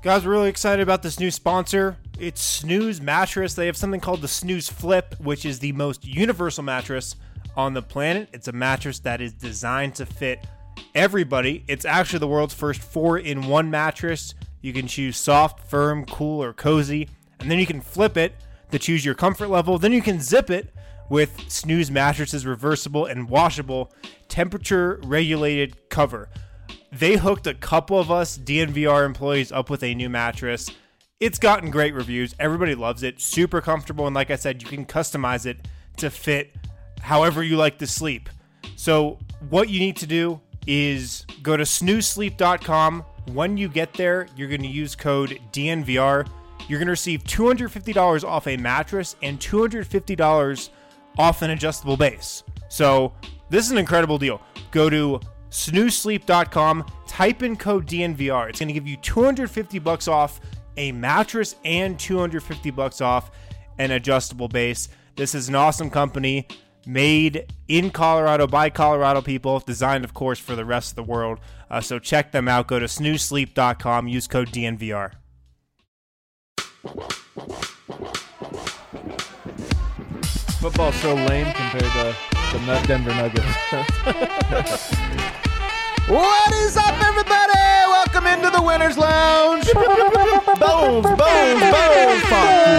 Guys, we're really excited about this new sponsor. It's Snooze Mattress. They have something called the Snooze Flip, which is the most universal mattress on the planet. It's a mattress that is designed to fit everybody. It's actually the world's first 4-in-1 mattress. You can choose soft, firm, cool, or cozy, and then you can flip it to choose your comfort level. Then you can zip it with Snooze Mattress's reversible and washable temperature-regulated cover. They hooked a couple of us DNVR employees up with a new mattress. It's gotten great reviews. Everybody loves it. Super comfortable. And like I said, you can customize it to fit however you like to sleep. So what you need to do is go to snoozesleep.com. When you get there, you're going to use code DNVR. You're going to receive $250 off a mattress and $250 off an adjustable base. So this is an incredible deal. Go to snoozesleep.com, type in code DNVR. It's going to give you $250 off a mattress and $250 off an adjustable base. This is an awesome company made in Colorado by Colorado people, designed, of course, for the rest of the world. So check them out. Go to snoozesleep.com, use code DNVR. Football's so lame compared to the Denver Nuggets. What is up, everybody? Welcome into the Winners Lounge. Bones, funky.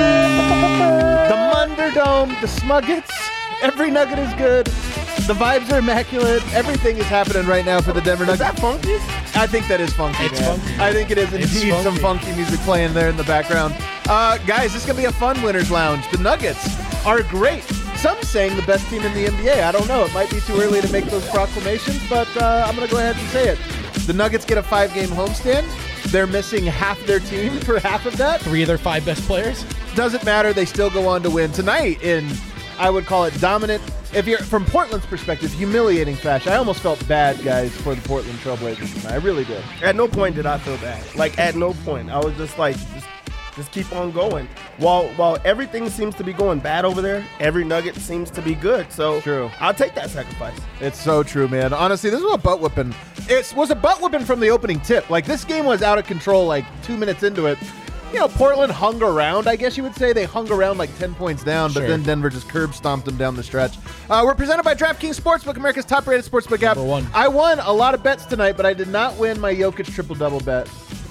The Munderdome, the Smuggets. Every Nugget is good. The vibes are immaculate. Everything is happening right now for the Denver Nuggets. Is that funky? I think that is funky, It's man. funky. I think it is indeed some funky music playing there in the background. Guys, this is going to be a fun Winners Lounge. The Nuggets are great. Some saying the best team in the NBA. I don't know. It might be too early to make those proclamations, but I'm going to go ahead and say it. The Nuggets get a 5-game homestand. They're missing half their team for half of that. 3 of their 5 best players? Doesn't matter. They still go on to win tonight in, I would call it dominant. If you're from Portland's perspective, humiliating fashion. I almost felt bad, guys, for the Portland Trailblazers tonight. I really did. At no point did I feel bad. Like, at no point. I was just like, just keep on going. While everything seems to be going bad over there, every Nugget seems to be good. So True. I'll take that sacrifice. It's so true, man. Honestly, this was a butt whipping. It was a butt whipping from the opening tip. Like, this game was out of control like 2 minutes into it. You know, Portland hung around, I guess you would say. They hung around like 10 points down, but Sure. then Denver just curb stomped them down the stretch. We're presented by DraftKings Sportsbook, America's top-rated sportsbook app. Number one. I won a lot of bets tonight, but I did not win my Jokic triple-double bet.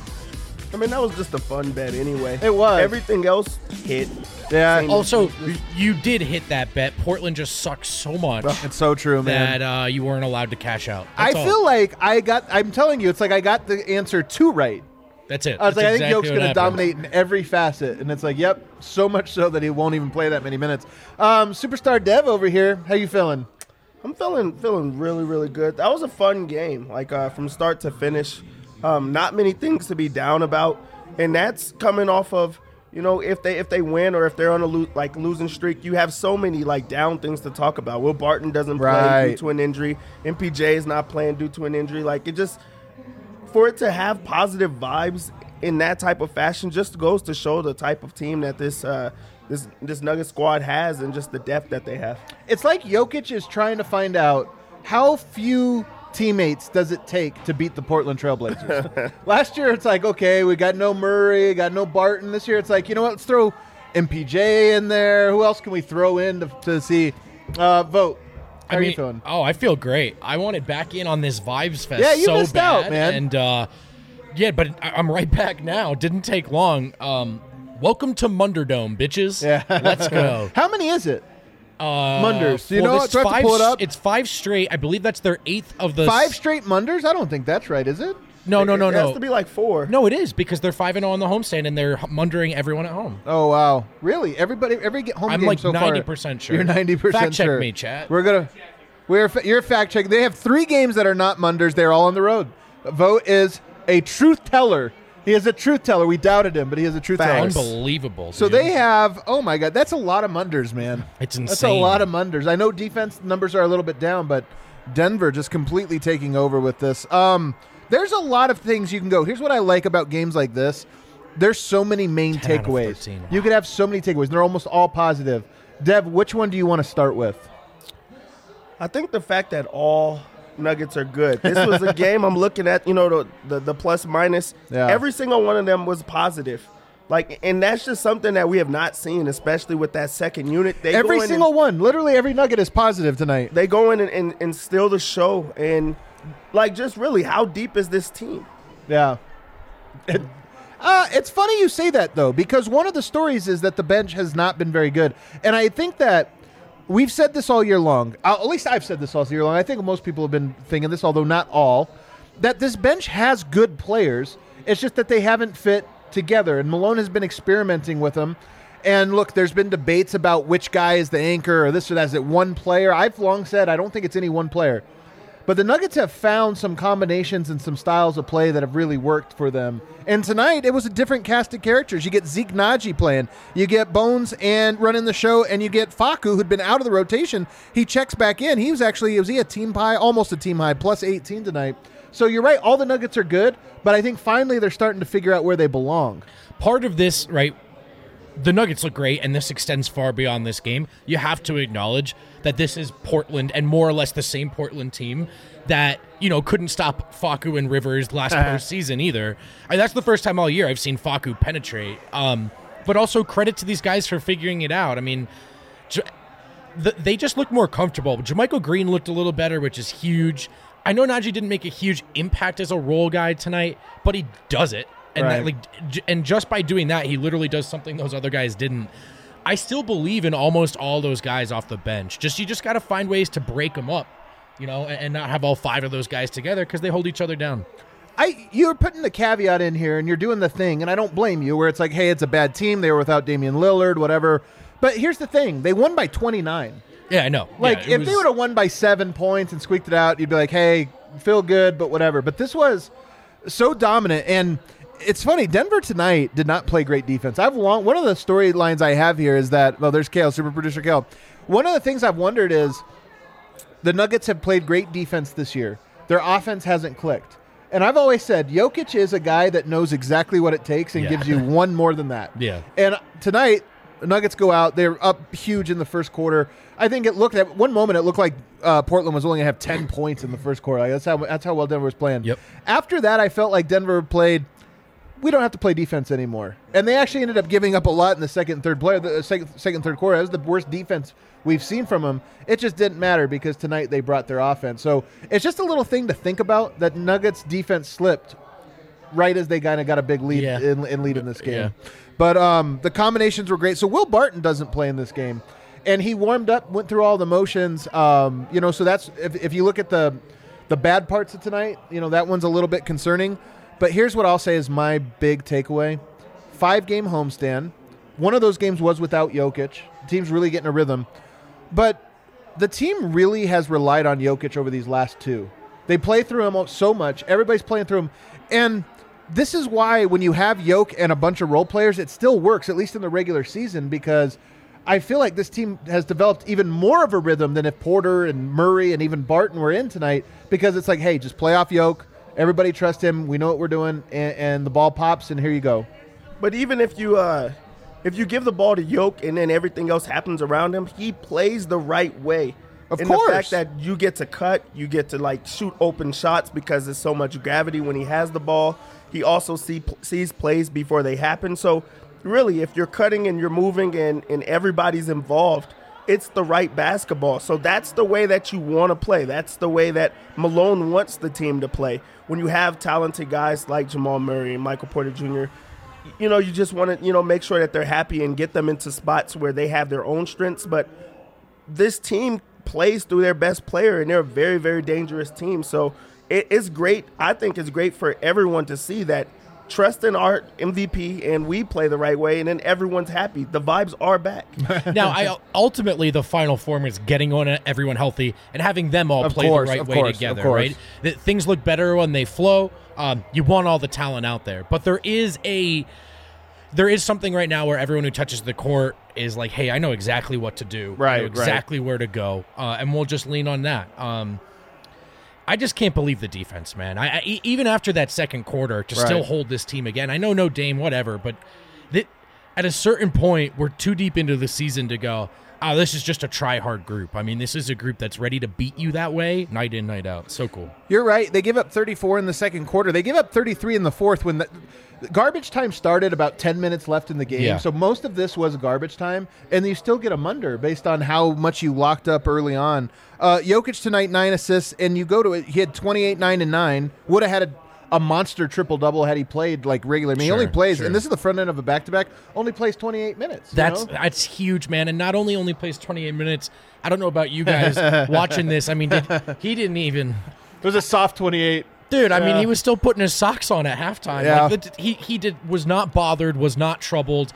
I mean, that was just a fun bet anyway. It was. Everything else hit. Yeah, Same. Also, you did hit that bet. Portland just sucks so much it's so true, man. that you weren't allowed to cash out. I That's all. feel like I'm telling you, it's like I got the answer 2 right. That's it. I was That's like, I think exactly Jokic what going to happened. dominate in every facet. And it's like, yep, so much so that he won't even play that many minutes. Superstar Dev over here, how you feeling? I'm feeling really, really good. That was a fun game, like from start to finish. Not many things to be down about, and that's coming off of, you know, if they win or if they're on a losing streak, you have so many like down things to talk about. Will Barton doesn't play Right. due to an injury. MPJ is not playing due to an injury. Like, it just, for it to have positive vibes in that type of fashion just goes to show the type of team that this Nugget squad has and just the depth that they have. It's like Jokic is trying to find out how few teammates does it take to beat the Portland Trailblazers. Last year, it's like, okay, we got no Murray, got no Barton. This year, it's like, you know what, let's throw MPJ in there. Who else can we throw in to see? Vote. How are you feeling? Oh, I feel great. I wanted back in on this Vibes Fest Yeah, you so missed bad. out, man. And, yeah, but I'm right back now. Didn't take long. Welcome to Munderdome, bitches. Yeah. Let's go. How many is it? Munders. Do you know this what? Do I have to pull it up? It's 5 straight. I believe that's their 8th of the 5 straight Munders? I don't think that's right, is it? No. It has to be like 4. No, it is because they're 5-0 on the homestand and they're mundering everyone at home. Oh, wow. Really? Every home I'm game like so far. 90% sure. You're 90% Fact check sure. me, chat. You're fact checking. They have 3 games that are not Munders. They're all on the road. Vote is a truth teller. He is a truth teller. We doubted him, but he is a truth teller. Unbelievable. So dude. they have, oh my God, that's a lot of Munders, man. It's insane. That's a lot of Munders. I know defense numbers are a little bit down, but Denver just completely taking over with this. There's a lot of things you can go. Here's what I like about games like this. There's so many main 10 out of takeaways. 13. You could have so many takeaways. They're almost all positive. Dev, which one do you want to start with? I think the fact that all Nuggets are good. This was a game I'm looking at, the plus minus. Yeah. Every single one of them was positive. And that's just something that we have not seen, especially with that second unit. Every single one. Literally every Nugget is positive tonight. They go in and steal the show. And, just really, how deep is this team? Yeah. It's funny you say that, though, because one of the stories is that the bench has not been very good. And I think that we've said this all year long. At least I've said this all year long. I think most people have been thinking this, although not all, that this bench has good players. It's just that they haven't fit together. And Malone has been experimenting with them. And look, there's been debates about which guy is the anchor or this or that. Is it one player? I've long said I don't think it's any one player. But the Nuggets have found some combinations and some styles of play that have really worked for them. And tonight, it was a different cast of characters. You get Zeke Naji playing. You get Bones and running the show, and you get Facu, who'd been out of the rotation. He checks back in. Was he a team high? Almost a team high, plus 18 tonight. So you're right, all the Nuggets are good, but I think finally they're starting to figure out where they belong. Part of this, right, the Nuggets look great, and this extends far beyond this game. You have to acknowledge that this is Portland, and more or less the same Portland team that, couldn't stop Facu and Rivers last postseason either. That's the first time all year I've seen Facu penetrate. But also credit to these guys for figuring it out. I mean, they just look more comfortable. JaMychal Green looked a little better, which is huge. I know Naji didn't make a huge impact as a role guy tonight, but he does it. And and just by doing that, he literally does something those other guys didn't. I still believe in almost all those guys off the bench. You just got to find ways to break them up, and not have all 5 of those guys together because they hold each other down. You're putting the caveat in here, and you're doing the thing, and I don't blame you, where it's like, hey, it's a bad team. They were without Damian Lillard, whatever. But here's the thing. They won by 29. Yeah, I know. If they would have won by 7 points and squeaked it out, you'd be like, hey, feel good, but whatever. But this was so dominant, and it's funny, Denver tonight did not play great defense. One of the storylines I have here is that, there's Kale, super producer Kale. One of the things I've wondered is the Nuggets have played great defense this year. Their offense hasn't clicked. And I've always said Jokic is a guy that knows exactly what it takes and gives you one more than that. Yeah. And tonight, the Nuggets go out. They're up huge in the first quarter. I think at one moment it looked like Portland was only going to have 10 points in the first quarter. That's how well Denver was playing. Yep. After that, I felt like Denver played, we don't have to play defense anymore. And they actually ended up giving up a lot in the second and third quarter. That was the worst defense we've seen from them. It just didn't matter because tonight they brought their offense. So it's just a little thing to think about that Nuggets defense slipped right as they kind of got a big lead in lead in this game. Yeah. But the combinations were great. So Will Barton doesn't play in this game. And he warmed up, went through all the motions. So that's if you look at the bad parts of tonight, that one's a little bit concerning. But here's what I'll say is my big takeaway. 5-game homestand. One of those games was without Jokic. The team's really getting a rhythm. But the team really has relied on Jokic over these last 2. They play through him so much. Everybody's playing through him. And this is why when you have Jokic and a bunch of role players, it still works, at least in the regular season, because I feel like this team has developed even more of a rhythm than if Porter and Murray and even Barton were in tonight, because it's like, hey, just play off Jokic. Everybody trust him. We know what we're doing, and the ball pops, and here you go. But even if you give the ball to Jokic and then everything else happens around him, he plays the right way. Of and course. The fact that you get to cut, you get to shoot open shots because there's so much gravity when he has the ball. He also sees plays before they happen. So really, if you're cutting and you're moving and everybody's involved, it's the right basketball. So that's the way that you want to play. That's the way that Malone wants the team to play. When you have talented guys like Jamal Murray and Michael Porter Jr., you just want to, make sure that they're happy and get them into spots where they have their own strengths. But this team plays through their best player, and they're a very, very dangerous team. So it's great. I think it's great for everyone to see that. Trust in our MVP, and we play the right way, and then everyone's happy. The vibes are back. Now, ultimately, the final form is getting on everyone healthy and having them all play the right way together, right? Things look better when they flow. You want all the talent out there. But there is something right now where everyone who touches the court is like, hey, I know exactly what to do. Right, I know exactly where to go. And we'll just lean on that. I just can't believe the defense, man. Even after that second quarter, to still hold this team again. I know no Dame, whatever, but at a certain point, we're too deep into the season to go, this is just a try-hard group. I mean, this is a group that's ready to beat you that way, night in, night out. So cool. You're right. They give up 34 in the second quarter. They give up 33 in the fourth when the garbage time started about 10 minutes left in the game. Yeah. So most of this was garbage time, and you still get a under based on how much you locked up early on. Jokic tonight, 9 assists, and you go to it. He had 28, 9, and 9. Would have had a monster triple-double had he played like regular. I mean, he only plays, and this is the front end of a back-to-back, only plays 28 minutes. That's huge, man. And not only plays 28 minutes, I don't know about you guys watching this. I mean, he didn't even... It was a soft 28. Dude, I mean, he was still putting his socks on at halftime. Yeah. Like, he was not bothered, was not troubled.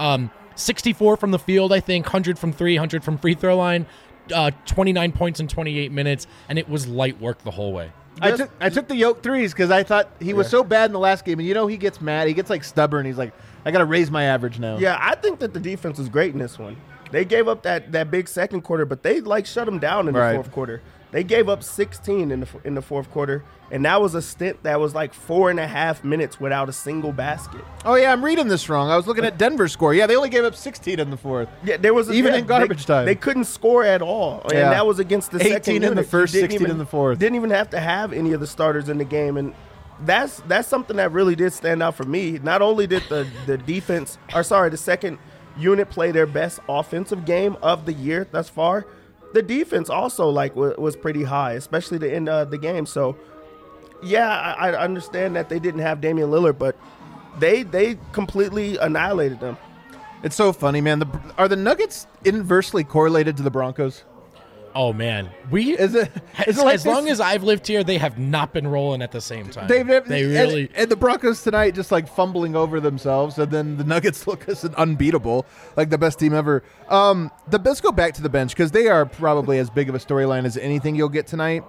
64 from the field, I think, 100 from 3, 100 from free throw line, 29 points in 28 minutes, and it was light work the whole way. I took the Yoke threes because I thought he was so bad in the last game, and he gets mad. He gets like stubborn. He's like, I got to raise my average now. Yeah, I think that the defense was great in this one. They gave up that big second quarter, but they shut them down in the fourth quarter. They gave up 16 in the fourth quarter, and that was a stint that was like 4.5 minutes without a single basket. Oh yeah, I'm reading this wrong. I was looking at Denver's score. Yeah, they only gave up 16 in the fourth. Yeah, there was in garbage time. They couldn't score at all, and that was against the 18 second in unit. the first, 16 in the fourth. Didn't even have to have any of the starters in the game, and that's something that really did stand out for me. Not only did the second unit play their best offensive game of the year thus far, the defense also was pretty high, especially the end of the game. So, yeah, I understand that they didn't have Damian Lillard, but they completely annihilated them. It's so funny, man. Are the Nuggets inversely correlated to the Broncos? Oh man, is it like as long as I've lived here, they have not been rolling at the same time. They really and the Broncos tonight just like fumbling over themselves, and then the Nuggets look as unbeatable, like the best team ever. Let's go back to the bench because they are probably as big of a storyline as anything you'll get tonight.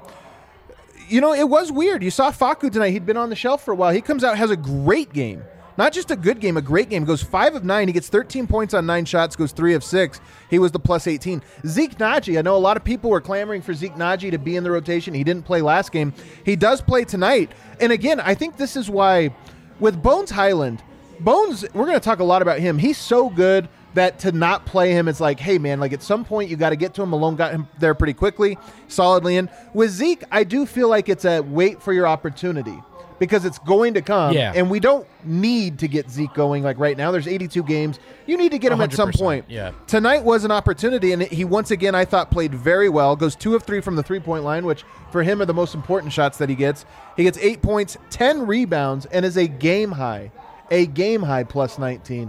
It was weird. You saw Facu tonight. He'd been on the shelf for a while. He comes out, has a great game. Not just a good game, a great game. Goes 5 of 9. He gets 13 points on 9 shots, goes 3 of 6. He was the plus 18. Zeke Naji, I know a lot of people were clamoring for Zeke Naji to be in the rotation. He didn't play last game. He does play tonight. And again, I think this is why with Bones Highland, we're going to talk a lot about him. He's so good that to not play him, it's like, hey, man, like at some point you got to get to him. Malone got him there pretty quickly, solidly in. With Zeke, I do feel like it's a wait for your opportunity. Because it's going to come, and we don't need to get Zeke going like right now. There's 82 games. You need to get him at some point. Yeah. Tonight was an opportunity, and he once again, I thought, played very well. Goes 2 of 3 from the three-point line, which for him are the most important shots that he gets. He gets 8 points, 10 rebounds, and is a game high plus 19.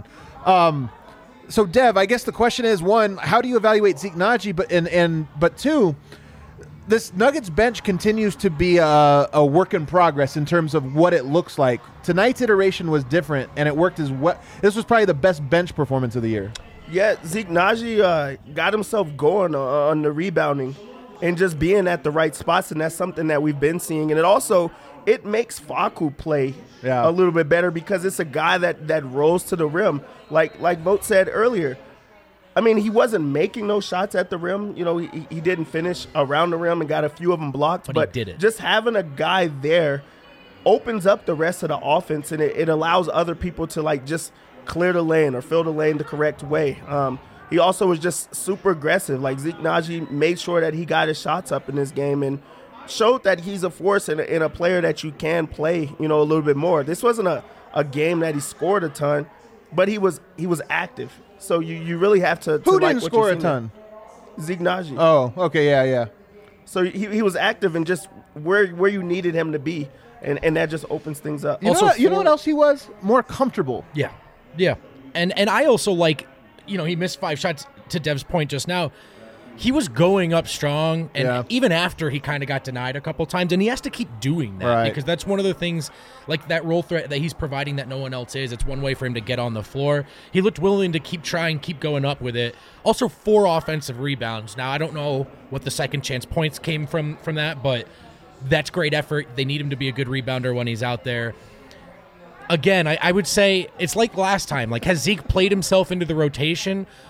So, Dev, I guess the question is, one, how do you evaluate Zeke Naji? But two, this Nuggets bench continues to be a work in progress in terms of what it looks like. Tonight's iteration was different, and it worked as well. This was probably the best bench performance of the year. Yeah, Zeke Naji got himself going on the rebounding and just being at the right spots, and that's something that we've been seeing. And it makes Facu play a little bit better because it's a guy that rolls to the rim. Like Vogt said earlier, I mean, he wasn't making those shots at the rim. He didn't finish around the rim and got a few of them blocked. But he did it. Just having a guy there opens up the rest of the offense, and it allows other people to, just clear the lane or fill the lane the correct way. He also was just super aggressive. Like, Zeke Naji made sure that he got his shots up in this game and showed that he's a force and a player that you can play, a little bit more. This wasn't a game that he scored a ton, but he was active. So you really have to Who like didn't what score you're a ton? Zeke Naji. Oh, okay, yeah. So he was active and just where you needed him to be, and that just opens things up. You know what else he was? More comfortable. Yeah. And I also like, he missed 5 shots to Dev's point just now. He was going up strong, and even after he kind of got denied a couple times, and he has to keep doing that because that's one of the things, like that role threat that he's providing that no one else is. It's one way for him to get on the floor. He looked willing to keep trying, keep going up with it. Also, 4 offensive rebounds. Now, I don't know what the second chance points came from that, but that's great effort. They need him to be a good rebounder when he's out there. Again, I would say it's like last time. Like, has Zeke played himself into the rotation?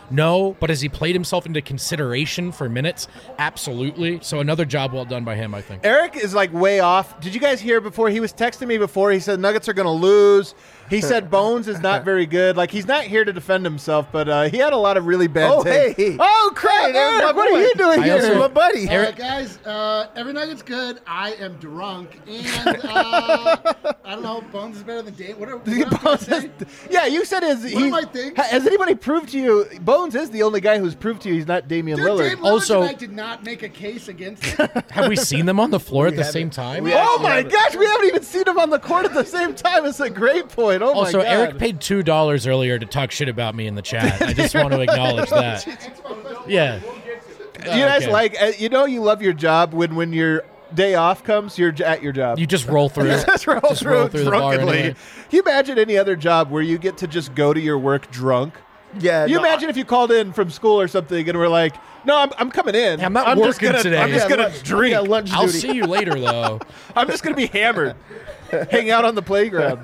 No, but has he played himself into consideration for minutes? Absolutely. So another job well done by him, I think. Eric is like way off. Did you guys hear before? He was texting me before. He said Nuggets are going to lose. He said Bones is not very good. Like, he's not here to defend himself, but he had a lot of really bad takes. Hey. Oh, crap, Hey, Eric, what are you doing I here? also- My buddy. Eric- Guys, every Nugget's good. I am drunk, and I don't know. Bones is better than Dave. What am I gonna say? Yeah, you said am I thinking? has anybody proved to you Bones is the only guy who's proved to you he's not Damian Dude, Lillard. Dave Lillard Also- tonight did not make a case against it. Have we seen them on the floor at the same time? Oh my gosh, we haven't even seen him on the court at the same time. It's a great point. Oh Also, my god. Eric paid $2 earlier to talk shit about me in the chat. I just want to acknowledge that. Yeah. you guys Okay. like you love your job when your day off comes, you're at your job. You just roll through. just roll Just roll through through the bar drunkenly. anyway. Can you imagine any other job where you get to just go to your work drunk? Yeah. You no, imagine if you called in from school or something and we're like, no, I'm coming in. I'm not just working gonna- today. I'm just Yeah, going to drink. Yeah, lunch I'll duty. see you later, though. I'm just going to be hammered. Hang out on the playground.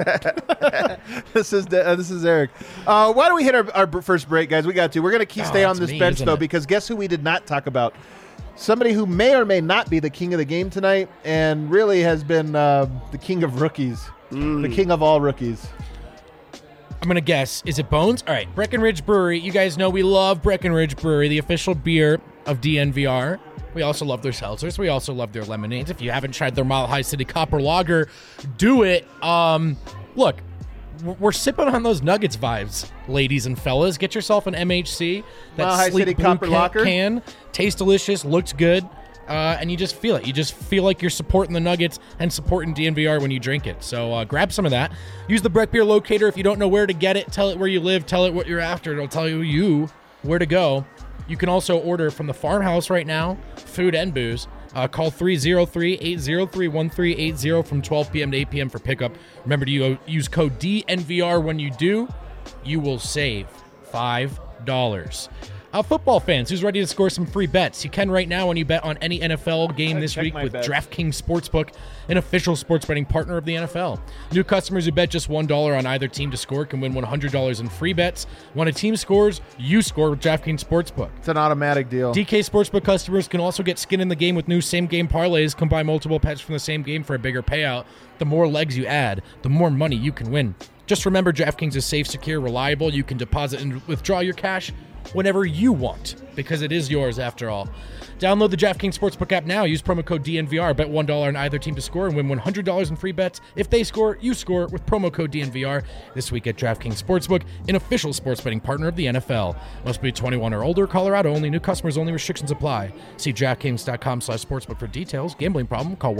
This is Eric. Why don't we hit our first break, guys? We got to. We're going to stay on that's this me, bench, isn't though, it? because guess who we did not talk about? Somebody who may or may not be the king of the game tonight and really has been the king of rookies, the king of all rookies. I'm going to guess. Is it Bones? All right. Breckenridge Brewery. You guys know we love Breckenridge Brewery, the official beer of DNVR. We also love their seltzers. We also love their lemonades. If you haven't tried their Mile High City Copper Lager, do it. Look, we're sipping on those Nuggets vibes, ladies and fellas. Get yourself an MHC. That Mile High sleek City blue Copper Lager. can. Tastes delicious. Looks good. And you just feel it. You just feel like you're supporting the Nuggets and supporting DNVR when you drink it. So grab some of that. Use the Breck Beer Locator. If you don't know where to get it, tell it where you live. Tell it what you're after. It'll tell you where to go. You can also order from the farmhouse right now, food and booze. Call 303-803-1380 from 12 p.m. to 8 p.m. for pickup. Remember to use code DNVR when you do. You will save $5. Football fans, who's ready to score some free bets? You can right now when you bet on any NFL game this check week my with bets. DraftKings Sportsbook, an official sports betting partner of the NFL. New customers who bet just $1 on either team to score can win $100 in free bets. When a team scores, you score with DraftKings Sportsbook. It's an automatic deal. DK Sportsbook customers can also get skin in the game with new same-game parlays. Combine multiple bets from the same game for a bigger payout. The more legs you add, the more money you can win. Just remember, DraftKings is safe, secure, reliable. You can deposit and withdraw your cash whenever you want, because it is yours after all. Download the DraftKings Sportsbook app now. Use promo code DNVR. Bet $1 on either team to score and win $100 in free bets. If they score, you score with promo code DNVR. This week at DraftKings Sportsbook, an official sports betting partner of the NFL. Must be 21 or older. Colorado only. New customers only. Restrictions apply. See DraftKings.com/sportsbook for details. Gambling problem? Call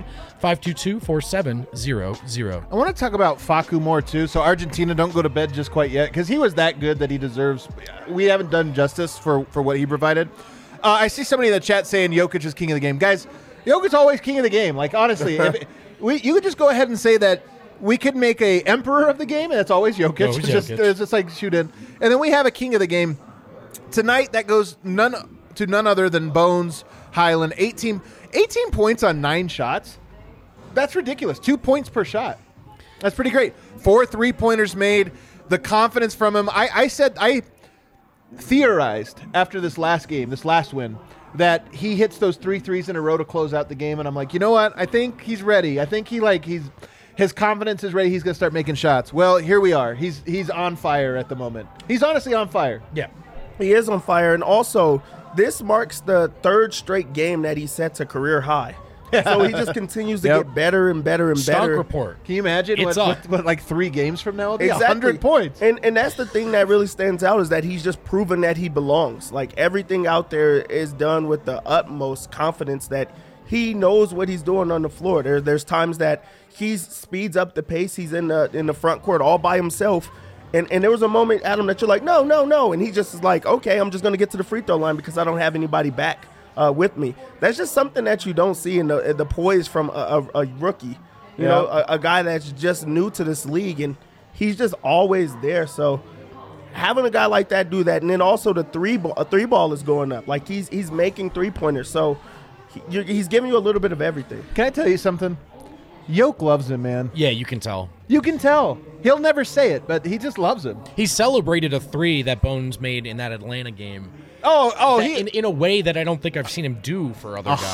1-800-522-4700. I want to talk about Facu more, too. So Argentina, don't go to bed just quite yet, because he was that good that he deserves. We haven't done justice for what he provided. I see somebody in the chat saying Jokic is king of the game. Guys, Jokic's always king of the game. Like, honestly, you could just go ahead and say that we could make a emperor of the game, and it's always Jokic. Always It's Jokic. it's just like shoot in. And then we have a king of the game. Tonight, that goes none other than Bones Highland. 18 points on 9 shots. That's ridiculous. 2 points per shot. That's pretty great. 4 3-pointers made. The confidence from him. I theorized after this last win, that he hits those 3 threes in a row to close out the game, and I'm like, you know what? I think he's ready. I think his confidence is ready. He's going to start making shots. Well, here we are. He's on fire at the moment. He's honestly on fire. Yeah. He is on fire, and also this marks the 3rd straight game that he sets a career high. So he just continues to Yep. get better and better and Stock better. report. Can you imagine It's what like 3 games from now will be? Exactly. 100 points. And that's the thing that really stands out, is that he's just proven that he belongs. Like, everything out there is done with the utmost confidence that he knows what he's doing on the floor. There's times that he speeds up the pace. He's in the front court all by himself. And there was a moment, Adam, that you're like, no. And he just is like, okay, I'm just going to get to the free throw line because I don't have anybody back with me. That's just something that you don't see in the poise from a rookie. You know, a guy that's just new to this league, and he's just always there. So having a guy like that do that, and then also the three ball is going up. Like, he's making 3-pointers. So he's giving you a little bit of everything. Can I tell you something? Yoke loves him, man. Yeah, you can tell. You can tell. He'll never say it, but he just loves him. He celebrated a 3 that Bones made in that Atlanta game. Oh, In a way that I don't think I've seen him do for other guys.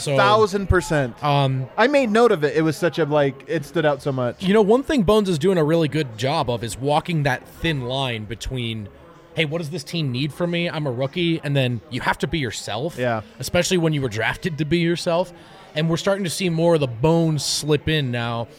1,000%. I made note of it. It was such a, it stood out so much. You know, one thing Bones is doing a really good job of is walking that thin line between, hey, what does this team need from me? I'm a rookie. And then you have to be yourself. Yeah. Especially when you were drafted to be yourself. And we're starting to see more of the Bones slip in now.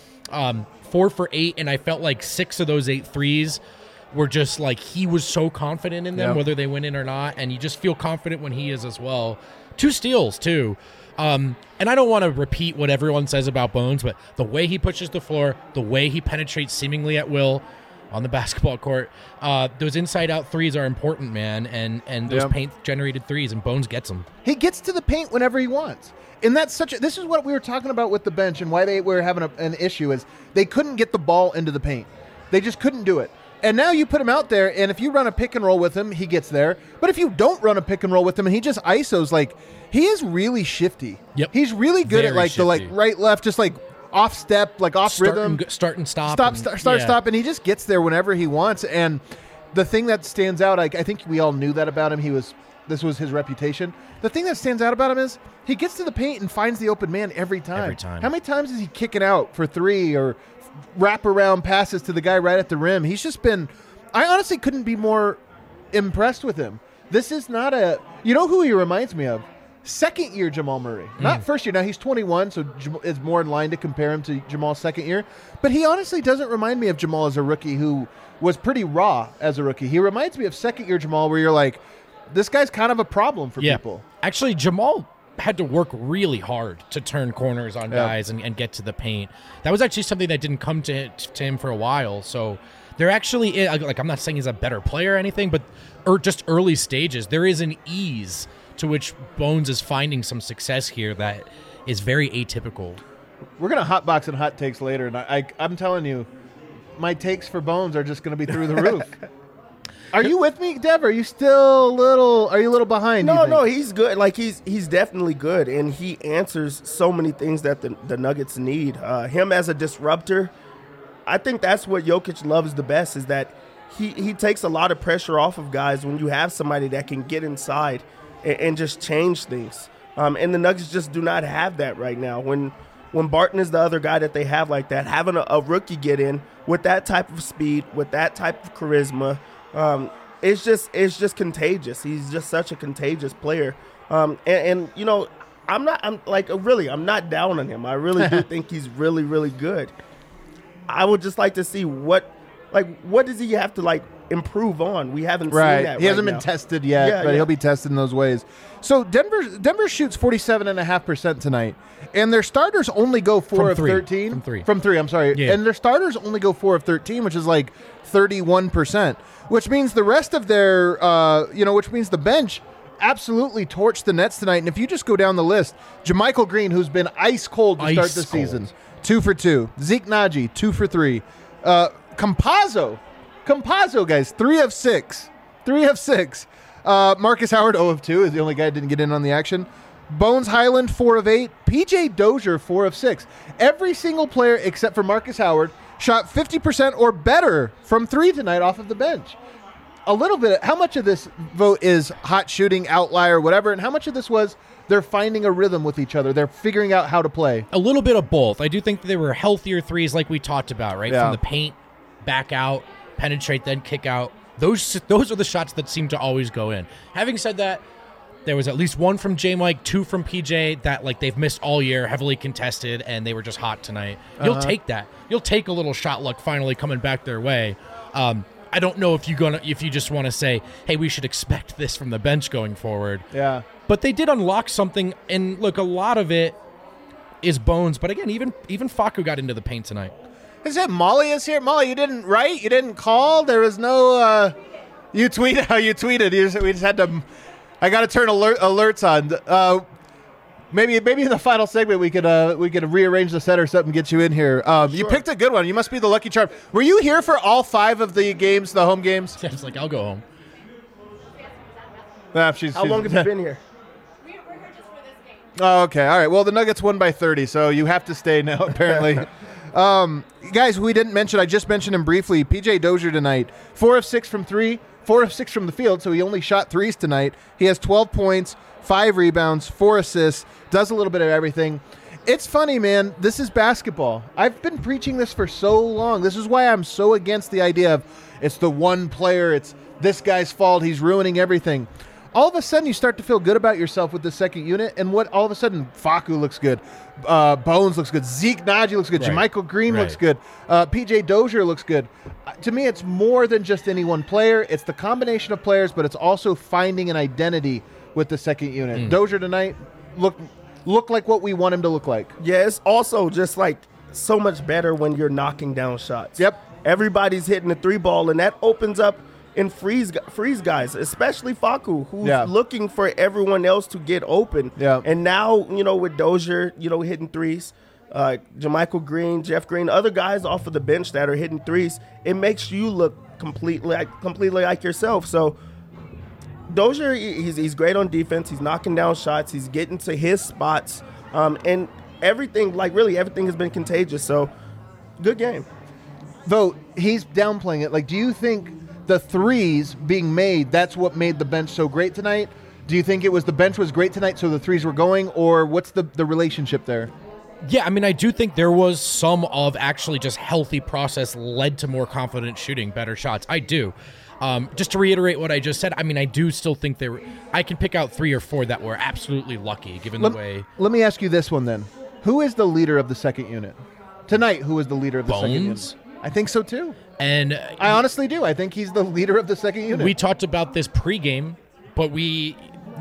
4 for 8, and I felt like 6 of those 8 threes were just like he was so confident in them, whether they went in or not, and you just feel confident when he is as well. 2 steals, too. And I don't want to repeat what everyone says about Bones, but the way he pushes the floor, the way he penetrates seemingly at will on the basketball court, those inside-out threes are important, man, and those paint-generated threes, and Bones gets them. He gets to the paint whenever he wants. And that's this is what we were talking about with the bench and why they were having an issue is they couldn't get the ball into the paint. They just couldn't do it. And now you put him out there, and if you run a pick and roll with him, he gets there. But if you don't run a pick and roll with him and he just ISOs, he is really shifty. Yep. He's really good Very at the right, left, just off step, off rhythm. Start and stop. Stop, and he just gets there whenever he wants. And the thing that stands out, I think we all knew that about him. This was his reputation. The thing that stands out about him is he gets to the paint and finds the open man every time. Every time. How many times is he kicking out for 3 or wrap around passes to the guy right at the rim? He's just been – I honestly couldn't be more impressed with him. This is not a – you know who he reminds me of? Second-year Jamal Murray. Not first year. Now, he's 21, so it's more in line to compare him to Jamal's second year. But he honestly doesn't remind me of Jamal as a rookie who was pretty raw as a rookie. He reminds me of second-year Jamal where you're like – this guy's kind of a problem for people. Actually, Jamal had to work really hard to turn corners on guys and get to the paint. That was actually something that didn't come to him for a while. So there actually is, I'm not saying he's a better player or anything, but just early stages, there is an ease to which Bones is finding some success here that is very atypical. We're going to hotbox and hot takes later, and I'm telling you, my takes for Bones are just going to be through the roof. Are you with me, Dev? Are you still a little behind? No, he's good. He's definitely good, and he answers so many things that the Nuggets need. Him as a disruptor, I think that's what Jokic loves the best is that he takes a lot of pressure off of guys when you have somebody that can get inside and just change things. And the Nuggets just do not have that right now. When Barton is the other guy that they have like that, having a rookie get in with that type of speed, with that type of charisma, it's just contagious. He's just such a contagious player. And you know, I'm not down on him. I really do think he's really, really good. I would just like to see what does he have to improve on? We haven't seen that. He hasn't been tested yet, but he'll be tested in those ways. So Denver shoots 47.5% tonight, and their starters only go 4 of 13. From three, I'm sorry. Yeah. And their starters only go 4 of 13, which is 31%, which means the rest of their, which means the bench absolutely torched the Nets tonight. And if you just go down the list, JaMychal Green, who's been ice cold to start the season, 2 for 2. Zeke Naji, 2 for 3. Campazzo, guys, 3 of 6. 3 of 6. Marcus Howard, 0 of 2, is the only guy that didn't get in on the action. Bones Highland, 4 of 8. PJ Dozier, 4 of 6. Every single player except for Marcus Howard shot 50% or better from 3 tonight off of the bench. A little bit. How much of this vote is hot shooting, outlier, whatever, and how much of this was they're finding a rhythm with each other? They're figuring out how to play. A little bit of both. I do think that they were healthier threes like we talked about, right? Yeah. From the paint, back out, penetrate, then kick out. Those are the shots that seem to always go in. Having said that, there was at least 1 from J-Mike, 2 from PJ that they've missed all year, heavily contested, and they were just hot tonight. You'll take that. You'll take a little shot luck finally coming back their way. I don't know if you just want to say, hey, we should expect this from the bench going forward. Yeah. But they did unlock something, and look, a lot of it is Bones. But again, even Facu got into the paint tonight. Is it Molly is here? Molly, you didn't write? You didn't call? There was no you tweeted how you tweeted. We just had to I got to turn alerts on. Maybe in the final segment we could rearrange the set or something, get you in here. Sure. You picked a good one. You must be the lucky charm. Were you here for all 5 of the games, the home games? It's I'll go home. How long have you been here? We're here just for this game. Oh, okay. All right. Well, the Nuggets won by 30, so you have to stay now, apparently. Guys, we didn't mention, I just mentioned him briefly, PJ Dozier tonight, 4 of 6 from 3, 4 of 6 from the field, so he only shot threes tonight. He has 12 points, 5 rebounds, 4 assists, does a little bit of everything. It's funny, man. This is basketball. I've been preaching this for so long. This is why I'm so against the idea of it's the one player, it's this guy's fault, he's ruining everything. All of a sudden, you start to feel good about yourself with the second unit, and all of a sudden, Facu looks good, Bones looks good, Zeke Naji looks good, Right. JaMychal Green looks good, PJ Dozier looks good. To me, it's more than just any one player. It's the combination of players, but it's also finding an identity with the second unit. Dozier tonight look like what we want him to look like. Yeah, it's also just like so much better when you're knocking down shots. Yep. Everybody's hitting the 3-ball, and that opens up and freeze guys, especially Facu, who's looking for everyone else to get open. Yeah. And now, with Dozier, hitting threes, JaMychal Green, Jeff Green, other guys off of the bench that are hitting threes, it makes you look completely like yourself. So Dozier, he's great on defense. He's knocking down shots. He's getting to his spots. And everything, really everything has been contagious. So good game. Though he's downplaying it. Do you think the threes being made, that's what made the bench so great tonight? Do you think it was the bench was great tonight, so the threes were going, or what's the relationship there? Yeah, I mean, I do think there was some of actually just healthy process led to more confident shooting, better shots. I do. Just to reiterate what I just said, I mean, I do still think I can pick out 3 or 4 that were absolutely lucky, given the way. Let me ask you this one then. Who is the leader of the second unit? Tonight, who is the leader of the second unit? I think so too. And I honestly do. I think he's the leader of the second unit. We talked about this pregame, but we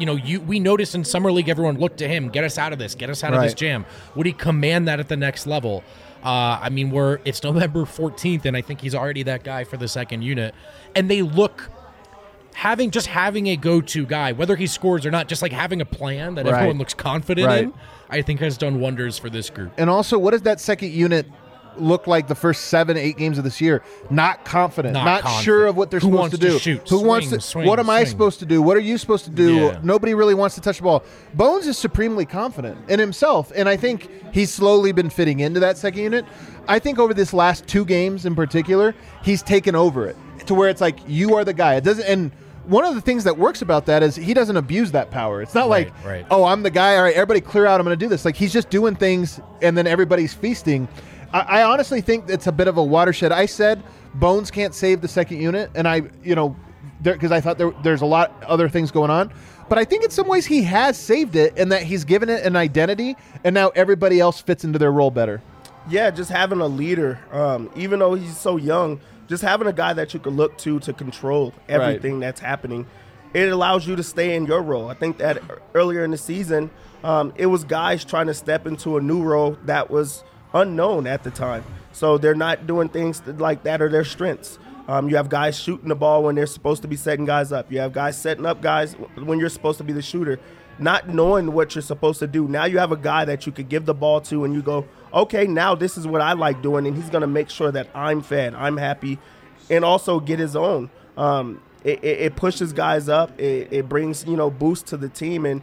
noticed in Summer League everyone looked to him, get us out of this jam. Would he command that at the next level? I mean, it's November 14th, and I think he's already that guy for the second unit. And they look having a go-to guy, whether he scores or not, just having a plan that everyone looks confident in, I think has done wonders for this group. And also, what does that second unit look like the first 7-8 games of this year? Not confident, not sure of what they're supposed to do. Who wants to shoot? What am I supposed to do? What are you supposed to do? Yeah. Nobody really wants to touch the ball. Bones is supremely confident in himself, and I think he's slowly been fitting into that second unit. I think over this last 2 games in particular, he's taken over it to where it's like, you are the guy. It doesn't, and one of the things that works about that is he doesn't abuse that power. It's not Right. oh, I'm the guy. All right, everybody clear out. I'm going to do this. He's just doing things, and then everybody's feasting. I honestly think it's a bit of a watershed. I said Bones can't save the second unit, and because I thought there's a lot other things going on. But I think in some ways he has saved it, in that he's given it an identity, and now everybody else fits into their role better. Yeah, just having a leader, even though he's so young, just having a guy that you can look to control everything that's happening, it allows you to stay in your role. I think that earlier in the season, it was guys trying to step into a new role that was unknown at the time. So they're not doing things like that are their strengths. You have guys shooting the ball when they're supposed to be setting guys up. You have guys setting up guys when you're supposed to be the shooter, not knowing what you're supposed to do. Now you have a guy that you could give the ball to and you go, okay, now this is what I like doing, and he's going to make sure that I'm fed, I'm happy, and also get his own. It pushes guys up. It brings, boost to the team, and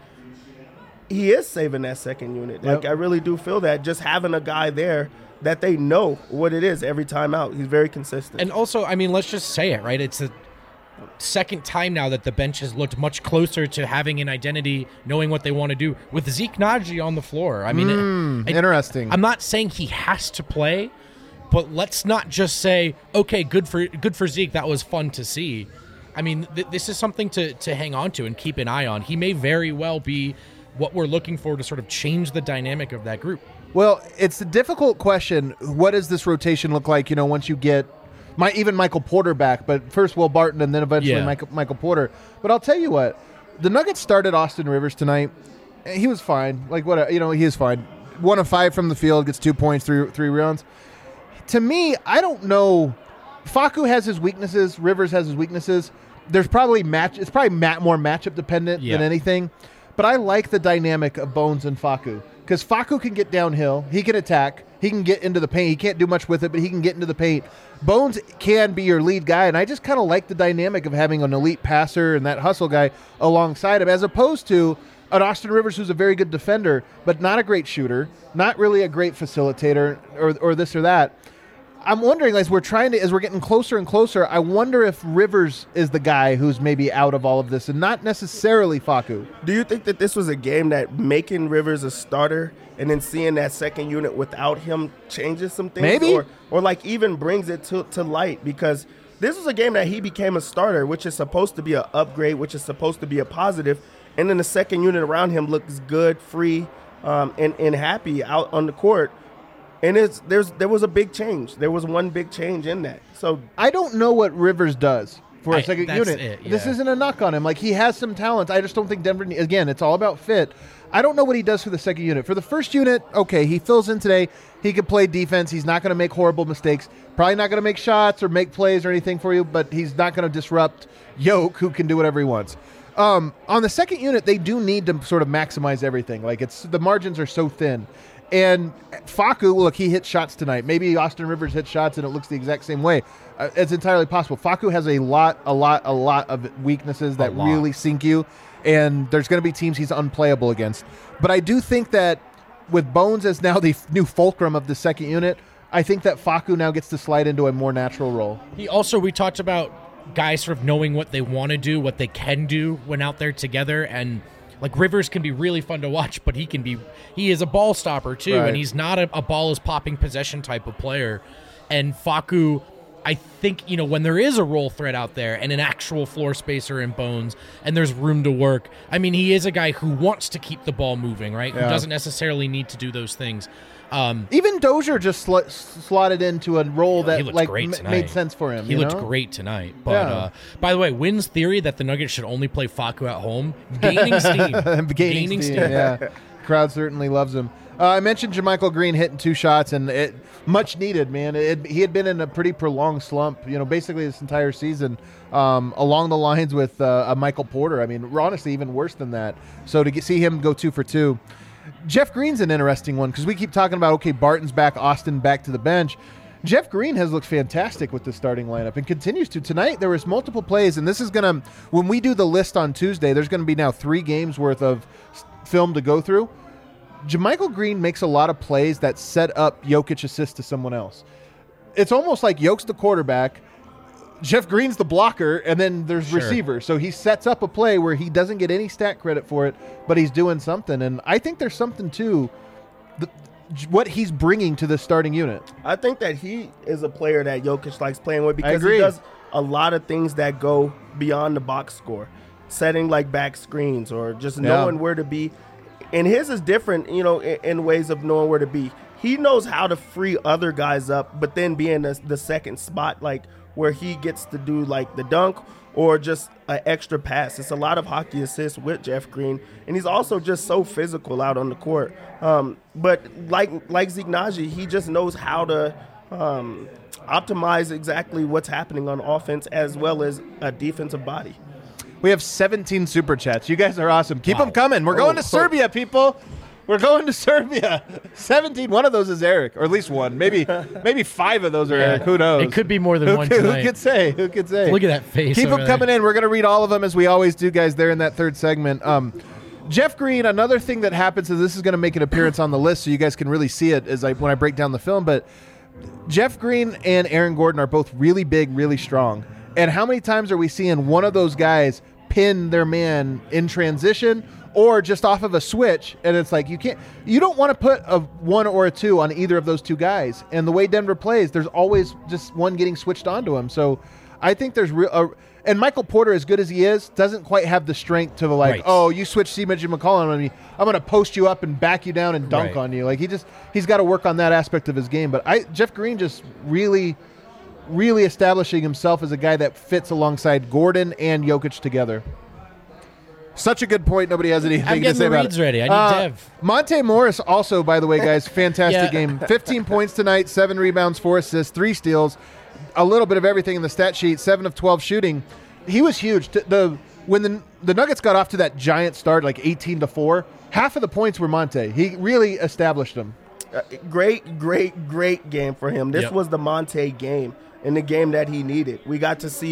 he is saving that second unit. I really do feel that, just having a guy there that they know what it is every time out. He's very consistent. And also, I mean, let's just say it, right? It's the second time now that the bench has looked much closer to having an identity, knowing what they want to do, with Zeke Naji on the floor. I mean, interesting. I'm not saying he has to play, but let's not just say, okay, good for Zeke, that was fun to see. I mean, this is something to hang on to and keep an eye on. He may very well be what we're looking for to sort of change the dynamic of that group. Well, it's a difficult question. What does this rotation look like, once you get even Michael Porter back, but first Will Barton and then eventually Michael Porter. But I'll tell you what, the Nuggets started Austin Rivers tonight. He was fine. He is fine. 1 of 5 from the field, gets 2 points, 3 rebounds. To me, I don't know. Facu has his weaknesses. Rivers has his weaknesses. There's probably it's probably more matchup dependent than anything. But I like the dynamic of Bones and Facu, because Facu can get downhill. He can attack. He can get into the paint. He can't do much with it, but he can get into the paint. Bones can be your lead guy, and I just kind of like the dynamic of having an elite passer and that hustle guy alongside him, as opposed to an Austin Rivers who's a very good defender, but not a great shooter, not really a great facilitator or this or that. I'm wondering, as we're getting closer and closer, I wonder if Rivers is the guy who's maybe out of all of this and not necessarily Facu. Do you think that this was a game that making Rivers a starter and then seeing that second unit without him changes some things? Maybe. Or like even brings it to light? Because this was a game that he became a starter, which is supposed to be an upgrade, which is supposed to be a positive. And then the second unit around him looks good, free, and happy out on the court. And there was a big change. There was one big change in that. So I don't know what Rivers does for a second that's unit. it, yeah. This isn't a knock on him. Like, he has some talent. I just don't think Denver, again, it's all about fit. I don't know what he does for the second unit. For the first unit, okay, he fills in today. He could play defense. He's not going to make horrible mistakes. Probably not going to make shots or make plays or anything for you, but he's not going to disrupt Yoke, who can do whatever he wants. On the second unit, they do need to sort of maximize everything. Like, the margins are so thin. And Facu, look, he hit shots tonight. Maybe Austin Rivers hit shots and it looks the exact same way. It's entirely possible. Facu has a lot of weaknesses that really sink you, and there's going to be teams he's unplayable against. But I do think that with Bones as now the new fulcrum of the second unit, I think that Facu now gets to slide into a more natural role. We talked about guys sort of knowing what they want to do, what they can do when out there together, and like Rivers can be really fun to watch, but he is a ball stopper too, right. And he's not a ball is popping possession type of player. And Facu, I think, when there is a role threat out there and an actual floor spacer in Bones and there's room to work, I mean, he is a guy who wants to keep the ball moving, right? Yeah. Who doesn't necessarily need to do those things. Even Dozier just slotted into a role that made sense for him. He looked great tonight. But by the way, Wynn's theory that the Nuggets should only play Facu at home, gaining steam. gaining steam. Yeah, crowd certainly loves him. I mentioned JaMychal Green hitting 2 shots, and it much needed, man. He had been in a pretty prolonged slump, basically this entire season, along the lines with Michael Porter. I mean, honestly, even worse than that. So to see him go 2 for 2. Jeff Green's an interesting one because we keep talking about, okay, Barton's back, Austin back to the bench. Jeff Green has looked fantastic with the starting lineup and continues to. Tonight, there was multiple plays, and this is going to, when we do the list on Tuesday, there's going to be now 3 games worth of film to go through. JaMychal Green makes a lot of plays that set up Jokic assist to someone else. It's almost like Jokic the quarterback, Jeff Green's the blocker, and then there's receivers. So he sets up a play where he doesn't get any stat credit for it, but he's doing something. And I think there's something to what he's bringing to the starting unit. I think that he is a player that Jokic likes playing with because he does a lot of things that go beyond the box score, setting like back screens or just knowing where to be. And his is different, in ways of knowing where to be. He knows how to free other guys up, but then be in the second spot, like where he gets to do like the dunk or just an extra pass. It's a lot of hockey assists with Jeff Green, and he's also just so physical out on the court. But like Zeke Nnaji, he just knows how to optimize exactly what's happening on offense as well as a defensive body. We have 17 super chats. You guys are awesome. Keep them coming. We're going to Serbia, people. We're going to Serbia. 17. One of those is Eric, or at least one. Maybe 5 of those are Eric. Who knows? It could be more than one tonight. Who could say? Who could say? Look at that face. Keep them coming in. We're going to read all of them as we always do, guys. There in that third segment. Jeff Green. Another thing that happens is this is going to make an appearance on the list, so you guys can really see it when I break down the film. But Jeff Green and Aaron Gordon are both really big, really strong. And how many times are we seeing one of those guys pin their man in transition or just off of a switch, and it's like you don't want to put a 1 or a 2 on either of those 2 guys. And the way Denver plays, there's always just one getting switched onto him. So I think there's and Michael Porter, as good as he is, doesn't quite have the strength to oh, you switch C-Midge and McCollum on me, I'm going to post you up and back you down and dunk on you. Like he's got to work on that aspect of his game. But Jeff Green just really establishing himself as a guy that fits alongside Gordon and Jokic together. Such a good point. Nobody has anything to say about it. I'm getting the reads ready. I need Dev. Monte Morris also, by the way, guys, fantastic game. 15 points tonight, 7 rebounds, 4 assists, 3 steals, a little bit of everything in the stat sheet, 7 of 12 shooting. He was huge. When the Nuggets got off to that giant start, like 18-4, half of the points were Monte. He really established them. Great game for him. This was the Monte game and the game that he needed. We got to see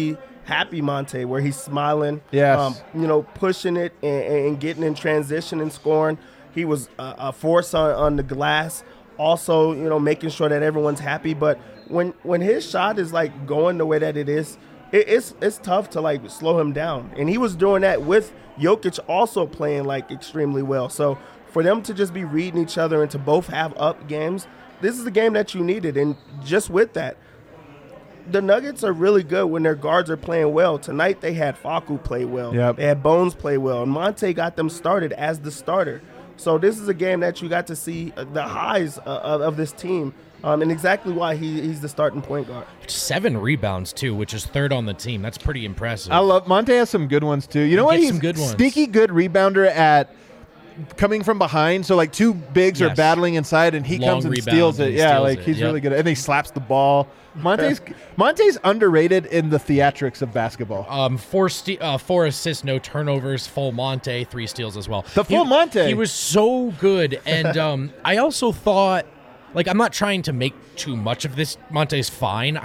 happy Monte, where he's smiling, Yes. pushing it and getting in transition and scoring. He was a force on the glass, also, making sure that everyone's happy. But when his shot is like going the way that it is, it's tough to like slow him down. And he was doing that with Jokic also playing like extremely well. So for them to just be reading each other and to both have up games, this is the game that you needed. And just with that, the Nuggets are really good when their guards are playing well. Tonight they had Facu play well. Yep. They had Bones play well. And Monte got them started as the starter. So this is a game that you got to see the highs of this team and exactly why he's the starting point guard. 7 rebounds, too, which is 3rd on the team. That's pretty impressive. I love Monte has some good ones too. You know what? Gets He's some good ones. sneaky good rebounder at coming from behind. So like two bigs are Yes. battling inside, and he Long comes and rebounds steals and it. he Yeah, steals like it. he's Yep. really good, and he slaps the ball. Monte's underrated in the theatrics of basketball. 4 assists, no turnovers, full Monte, 3 steals as well. The full Monte. He was so good. And I also thought, like, I'm not trying to make too much of this. Monte's fine.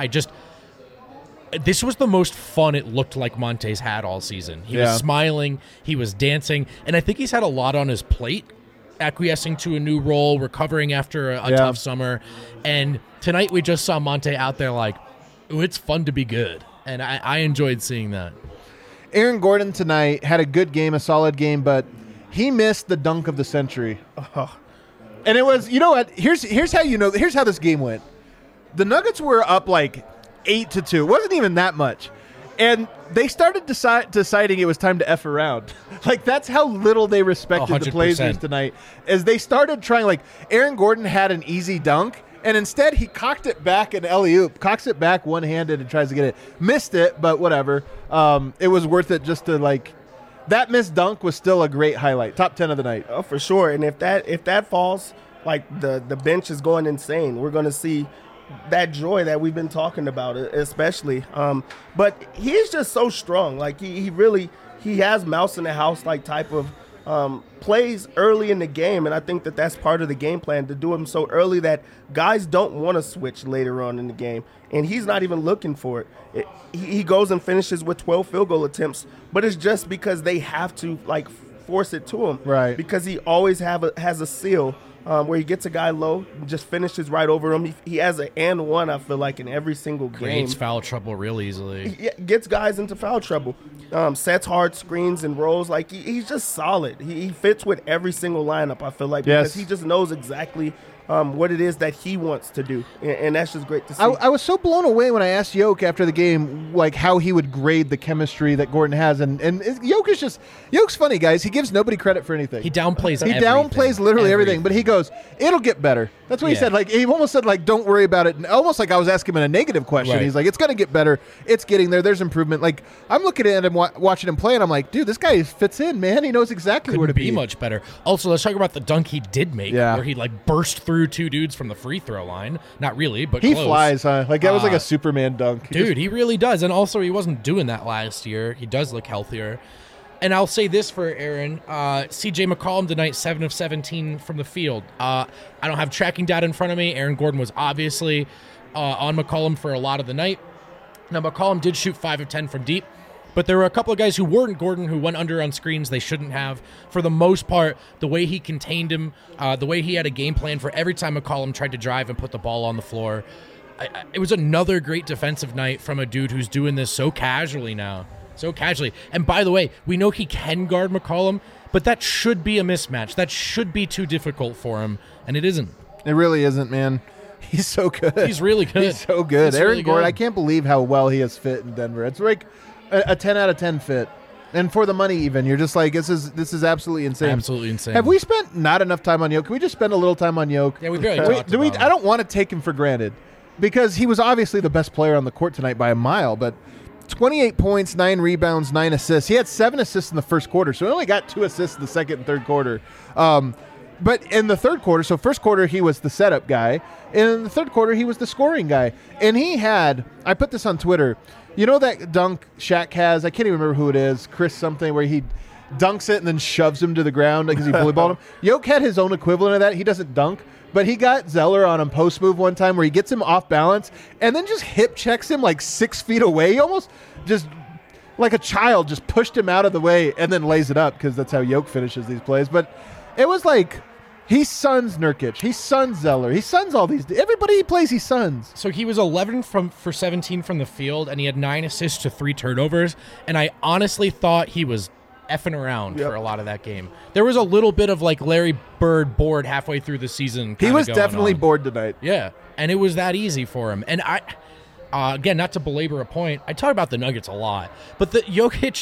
This was the most fun it looked like Monte's had all season. He was smiling, he was dancing, and I think he's had a lot on his plate, acquiescing to a new role, recovering after a tough summer. And tonight we just saw Monte out there like, ooh, it's fun to be good. And I enjoyed seeing that. Aaron Gordon tonight had a good game, a solid game, but he missed the dunk of the century. And it was, you know what? Here's how here's how this game went. The Nuggets were up like 8-2. It wasn't even that much. And they started deciding it was time to F around. Like, that's how little they respected the 100%. Blazers tonight. As they started trying, like, Aaron Gordon had an easy dunk, and instead he cocked it back in alley-oop, cocks it back one-handed and tries to get it. Missed it, but whatever. It was worth it just to, like, that missed dunk was still a great highlight. Top 10 of the night. Oh, for sure. And if that falls, like, the bench is going insane. We're going to see that joy that we've been talking about, especially. But he's just so strong. Like, he has mouse in the house like type of plays early in the game, and I think that's part of the game plan, to do him so early that guys don't want to switch later on in the game, and he's not even looking for it. He goes and finishes with 12 field goal attempts, but it's just because they have to like force it to him, right? Because he always has a seal. Where he gets a guy low, just finishes right over him. He has an and one, I feel like, in every single game. Creates foul trouble real easily. He gets guys into foul trouble. Sets hard screens and rolls. Like, he's just solid. He fits with every single lineup, I feel like, because he just knows exactly what it is that he wants to do. And that's just great to see. I was so blown away when I asked Yoke after the game, like, how he would grade the chemistry that Gordon has. And Yoke's funny, guys. He gives nobody credit for anything. He downplays He everything. downplays literally everything, but he goes, it'll get better. That's what he said. Like, he almost said, like, don't worry about it. And almost like I was asking him a negative question. Right. He's like, it's going to get better. It's getting there. There's improvement. Like, I'm looking at him, watching him play, and I'm like, dude, this guy fits in, man. He knows exactly where to be much better. Also, let's talk about the dunk he did make, where he like burst through 2 dudes from the free throw line. Not really, but he close. flies, huh? Like, that was like a Superman dunk. Dude, he really does. And also, he wasn't doing that last year. He does look healthier. And I'll say this for Aaron. CJ McCollum tonight, 7 of 17 from the field. I don't have tracking data in front of me. Aaron Gordon was obviously on McCollum for a lot of the night. Now, McCollum did shoot 5 of 10 from deep. But there were a couple of guys who weren't Gordon who went under on screens they shouldn't have. For the most part, the way he contained him, the way he had a game plan for every time McCollum tried to drive and put the ball on the floor. It was another great defensive night from a dude who's doing this so casually now. So casually. And by the way, we know he can guard McCollum, but that should be a mismatch. That should be too difficult for him, and it isn't. It really isn't, man. He's so good. He's really good. He's so good. He's Aaron really Gordon, good. I can't believe how well he has fit in Denver. It's like a 10 out of 10 fit. And for the money even, you're just like, this is absolutely insane. Absolutely insane. Have we spent not enough time on Yoke? Can we just spend a little time on Yoke? Yeah, we barely talked about him. I don't want to take him for granted because he was obviously the best player on the court tonight by a mile, but 28 points, 9 rebounds, 9 assists. He had 7 assists in the first quarter, so he only got 2 assists in the second and third quarter. But in the third quarter, so first quarter he was the setup guy, and in the third quarter he was the scoring guy. And he had, I put this on Twitter, you know that dunk Shaq has, I can't even remember who it is, Chris something, where he dunks it and then shoves him to the ground because he bully balled him. Yoke had his own equivalent of that. He doesn't dunk, but he got Zeller on a post move one time where he gets him off balance and then just hip checks him like 6 feet away. He almost just like a child, just pushed him out of the way and then lays it up because that's how Jokic finishes these plays. But it was like he suns Nurkic, he suns Zeller, he suns all these. Everybody he plays, he suns. So he was 11 for 17 from the field, and he had 9 assists to 3 turnovers. And I honestly thought he was effing around for a lot of that game. There was a little bit of like Larry Bird bored halfway through the season. He was going definitely on. bored tonight. Yeah, and it was that easy for him. And again, not to belabor a point, I talk about the Nuggets a lot, but the Jokic,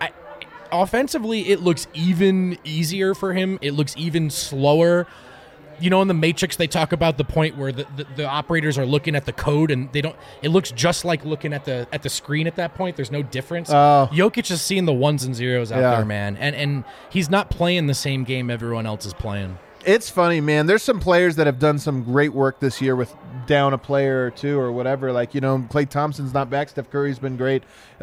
offensively, it looks even easier for him. It looks even slower. You know, in the Matrix, they talk about the point where the operators are looking at the code and they don't. It looks just like looking at the screen at that point. There's no difference. Jokic is seeing the ones and zeros out there, man, and he's not playing the same game everyone else is playing. It's funny, man. There's some players that have done some great work this year with down a player or two or whatever. Like, you know, Klay Thompson's not back. Steph Curry's been great.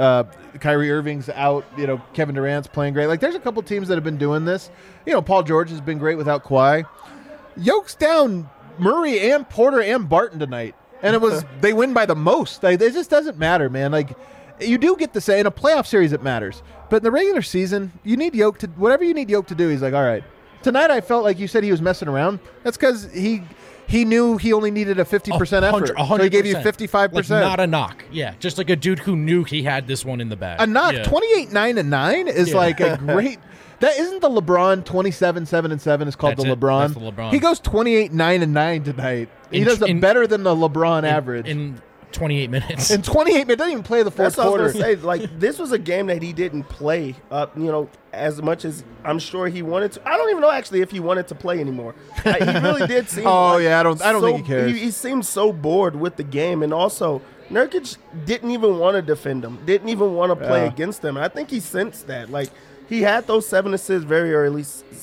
Kyrie Irving's out. You know, Kevin Durant's playing great. Like, there's a couple teams that have been doing this. You know, Paul George has been great without Kawhi. Yoke's down Murray and Porter and Barton tonight. And it was they win by the most. Like, it just doesn't matter, man. Like, you do get to say in a playoff series it matters. But in the regular season, you need Jokic to – whatever you need Jokic to do, he's like, all right. Tonight I felt like you said he was messing around. That's because he knew he only needed a 50% effort. 100%. So he gave you 55%. Like, not a knock. Yeah, just like a dude who knew he had this one in the bag. A knock, yeah. 28-9-9 is like a great – that isn't the LeBron 27-7-7 is called That's the it. LeBron. That's the LeBron. He goes 28-9-9 tonight. He does it better than the LeBron average. In 28 minutes. In 28 minutes, doesn't even play the fourth That's what I was quarter. gonna say. Like, this was a game that he didn't play up, you know, as much as I'm sure he wanted to. I don't even know actually if he wanted to play anymore. He really did seem. Oh, like yeah, I don't think he cares. He seemed so bored with the game, and also Nurkic didn't even want to defend him. Didn't even want to play against him. And I think he sensed that. Like, he had those 7 assists very early,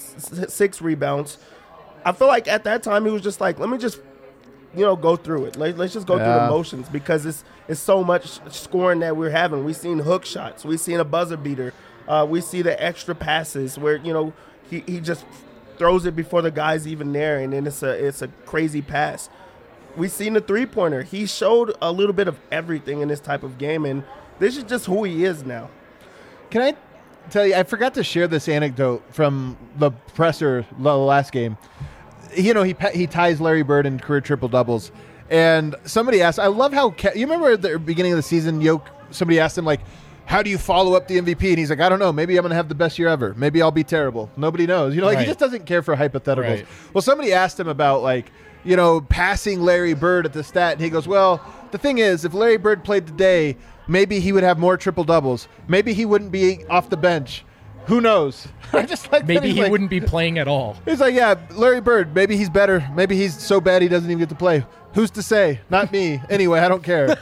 6 rebounds. I feel like at that time he was just like, let me just, you know, go through it. Let's just go through the motions because it's so much scoring that we're having. We've seen hook shots. We've seen a buzzer beater. We see the extra passes where, you know, he just throws it before the guy's even there, and then it's a crazy pass. We've seen the three-pointer. He showed a little bit of everything in this type of game, and this is just who he is now. Can I tell you, I forgot to share this anecdote from the presser the last game. You know, he ties Larry Bird in career triple-doubles. And somebody asked, I love how, you remember at the beginning of the season, somebody asked him, like, how do you follow up the MVP? And he's like, I don't know. Maybe I'm going to have the best year ever. Maybe I'll be terrible. Nobody knows. You know, like, he just doesn't care for hypotheticals. Right. Well, somebody asked him about, like, you know, passing Larry Bird at the stat. And he goes, well, the thing is, if Larry Bird played today, maybe he would have more triple-doubles. Maybe he wouldn't be off the bench. Who knows? I just like Maybe he like, wouldn't be playing at all. He's like, yeah, Larry Bird, maybe he's better. Maybe he's so bad he doesn't even get to play. Who's to say? Not me. Anyway, I don't care.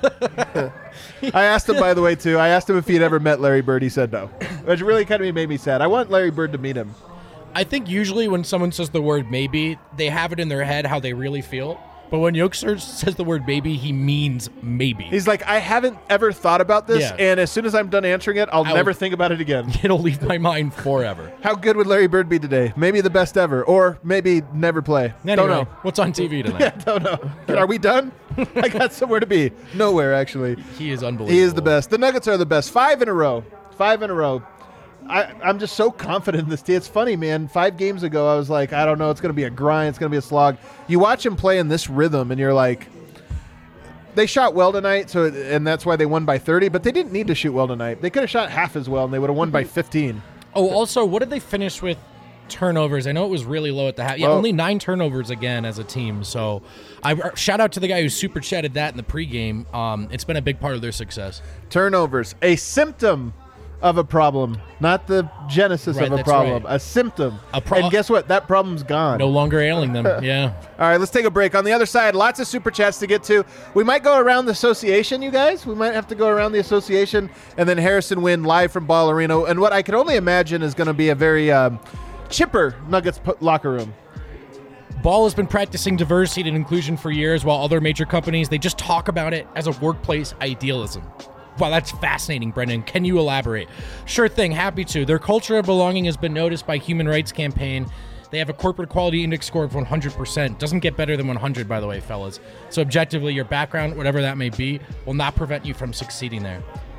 I asked him, by the way, too. I asked him if he'd ever met Larry Bird. He said no, which really kind of made me sad. I want Larry Bird to meet him. I think usually when someone says the word maybe, they have it in their head how they really feel. But when Jokic says the word maybe, he means maybe. He's like, I haven't ever thought about this, Yeah. and as soon as I'm done answering it, I'll never think about it again. It'll leave my mind forever. How good would Larry Bird be today? Maybe the best ever, or maybe never play. Anyway, Don't know. what's on TV tonight? Yeah, don't know. Are we done? I got somewhere to be. Nowhere, actually. He is unbelievable. He is the best. The Nuggets are the best. 5 in a row. 5 in a row. I'm just so confident in this team. It's funny, man. 5 games ago, I was like, I don't know. It's going to be a grind. It's going to be a slog. You watch him play in this rhythm, and you're like, they shot well tonight, and that's why they won by 30, but they didn't need to shoot well tonight. They could have shot half as well, and they would have won by 15. Oh, also, what did they finish with turnovers? I know it was really low at the half. Yeah, only 9 turnovers again as a team. So I shout out to the guy who super chatted that in the pregame. It's been a big part of their success. Turnovers, a symptom of a problem, not the genesis Right, of a that's problem. right. A symptom. And And guess what? That problem's gone. No longer ailing them. Yeah. All right, let's take a break. On the other side, lots of super chats to get to. We might go around the association, you guys. We might have to go around the association, and then Harrison Wind live from Ball Arena. And what I can only imagine is going to be a very chipper Nuggets locker room. Ball has been practicing diversity and inclusion for years, while other major companies, they just talk about it as a workplace idealism. Wow, that's fascinating, Brendan. Can you elaborate? Sure thing, happy to. Their culture of belonging has been noticed by Human Rights Campaign. They have a corporate quality index score of 100%. Doesn't get better than 100, by the way, fellas. So objectively, your background, whatever that may be, will not prevent you from succeeding there.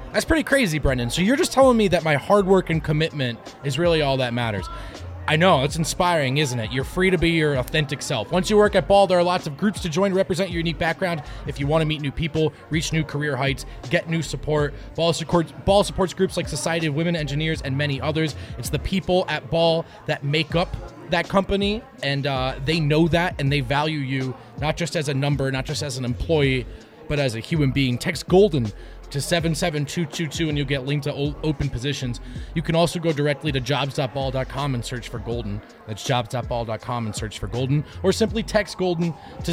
That's pretty crazy, Brendan. So you're just telling me that my hard work and commitment is really all that matters. I know, it's inspiring, isn't it? You're free to be your authentic self. Once you work at Ball, there are lots of groups to join to represent your unique background. If you want to meet new people, reach new career heights, get new support, Ball supports groups like Society of Women Engineers and many others. It's the people at Ball that make up that company, and they know that, and they value you, not just as a number, not just as an employee, but as a human being. Text GOLDEN to 77222 and you'll get linked to open positions. You can also go directly to jobs.ball.com and search for Golden. That's jobs.ball.com and search for Golden, or simply text Golden to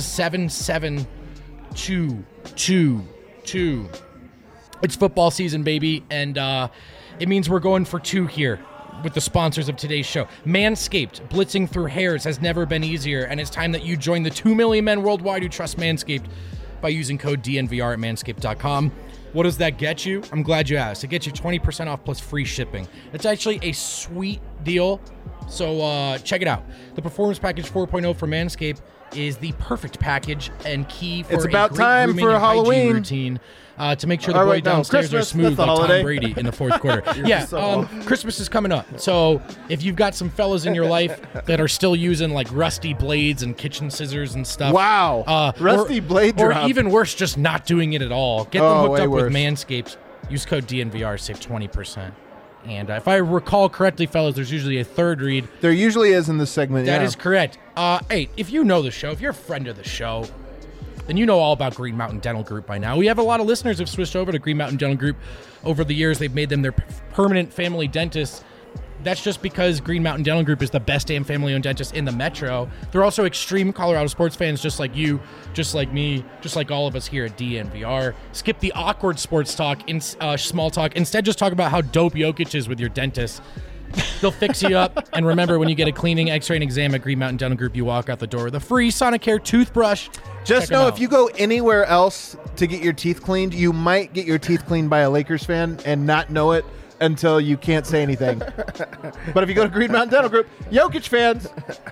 77222. It's football season, baby, and it means we're going for 2 here with the sponsors of today's show. Manscaped, blitzing through hairs has never been easier, and it's time that you join the 2 million men worldwide who trust Manscaped by using code DNVR at manscaped.com. What does that get you? I'm glad you asked. It gets you 20% off plus free shipping. It's actually a sweet deal, so check it out. The Performance Package 4.0 for Manscaped is the perfect package and key for It's a about great time grooming for and hygiene Halloween. routine to make sure the All boy right, no, downstairs are Christmas, smooth that's the like holiday. Tom Brady in the fourth quarter. Christmas is coming up. So if you've got some fellas in your life that are still using like rusty blades and kitchen scissors and stuff. Wow. Rusty blade or drop. even worse, just not doing it at all. Get them hooked way up with worse. Manscaped. Use code DNVR, save 20%. And if I recall correctly, fellas, there's usually a third read. There usually is in this segment. That yeah. is correct. Hey, if you know the show, if you're a friend of the show, then you know all about Green Mountain Dental Group by now. We have a lot of listeners who've switched over to Green Mountain Dental Group over the years. They've made them their permanent family dentists. That's just because Green Mountain Dental Group is the best damn family-owned dentist in the metro. They're also extreme Colorado sports fans, just like you, just like me, just like all of us here at DNVR. Skip the awkward sports talk, small talk. Instead, just talk about how dope Jokic is with your dentist. They'll fix you up. And remember, when you get a cleaning, x-ray, and exam at Green Mountain Dental Group, you walk out the door with a free Sonicare toothbrush. Just Check 'em know out. if you go anywhere else to get your teeth cleaned, you might get your teeth cleaned by a Lakers fan and not know it until you can't say anything. But if you go to Green Mountain Dental Group, Jokic fans.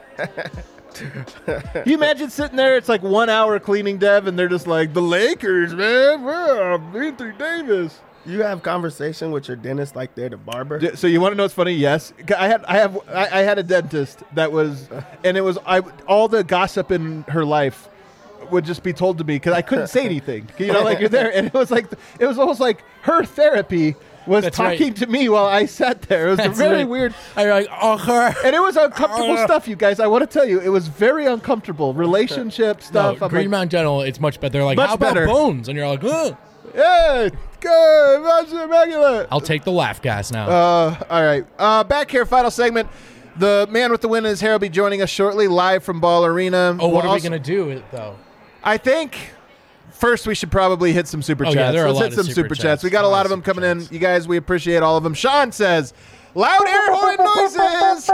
You imagine sitting there, it's like 1 hour cleaning, Dev, and they're just like, the Lakers, man. Anthony Davis. You have conversation with your dentist like they're the barber. So you want to know what's funny? Yes, I had a dentist that was, and it was all the gossip in her life would just be told to me because I couldn't say anything. You know, like you're there, and it was almost like her therapy was That's talking right. to me while I sat there. It was That's very right. weird, I'm like, and it was uncomfortable stuff. You guys, I want to tell you, it was very uncomfortable relationship stuff. no, I'm Green like, Mountain Dental, it's much better. They're like, Much how about better. bones? And you're like, ugh. yeah, good, that's immaculate. I'll take the laugh gas now. All right. Back here, final segment. The man with the win is here. Will be joining us shortly, live from Ball Arena. what are we also- going to do with it, though? I think first we should probably hit some super chats. yeah, there are a Let's lot hit of some super super chats. chats. We got a lot of them coming in. You guys, we appreciate all of them. Sean says, loud air horn noises. Yes,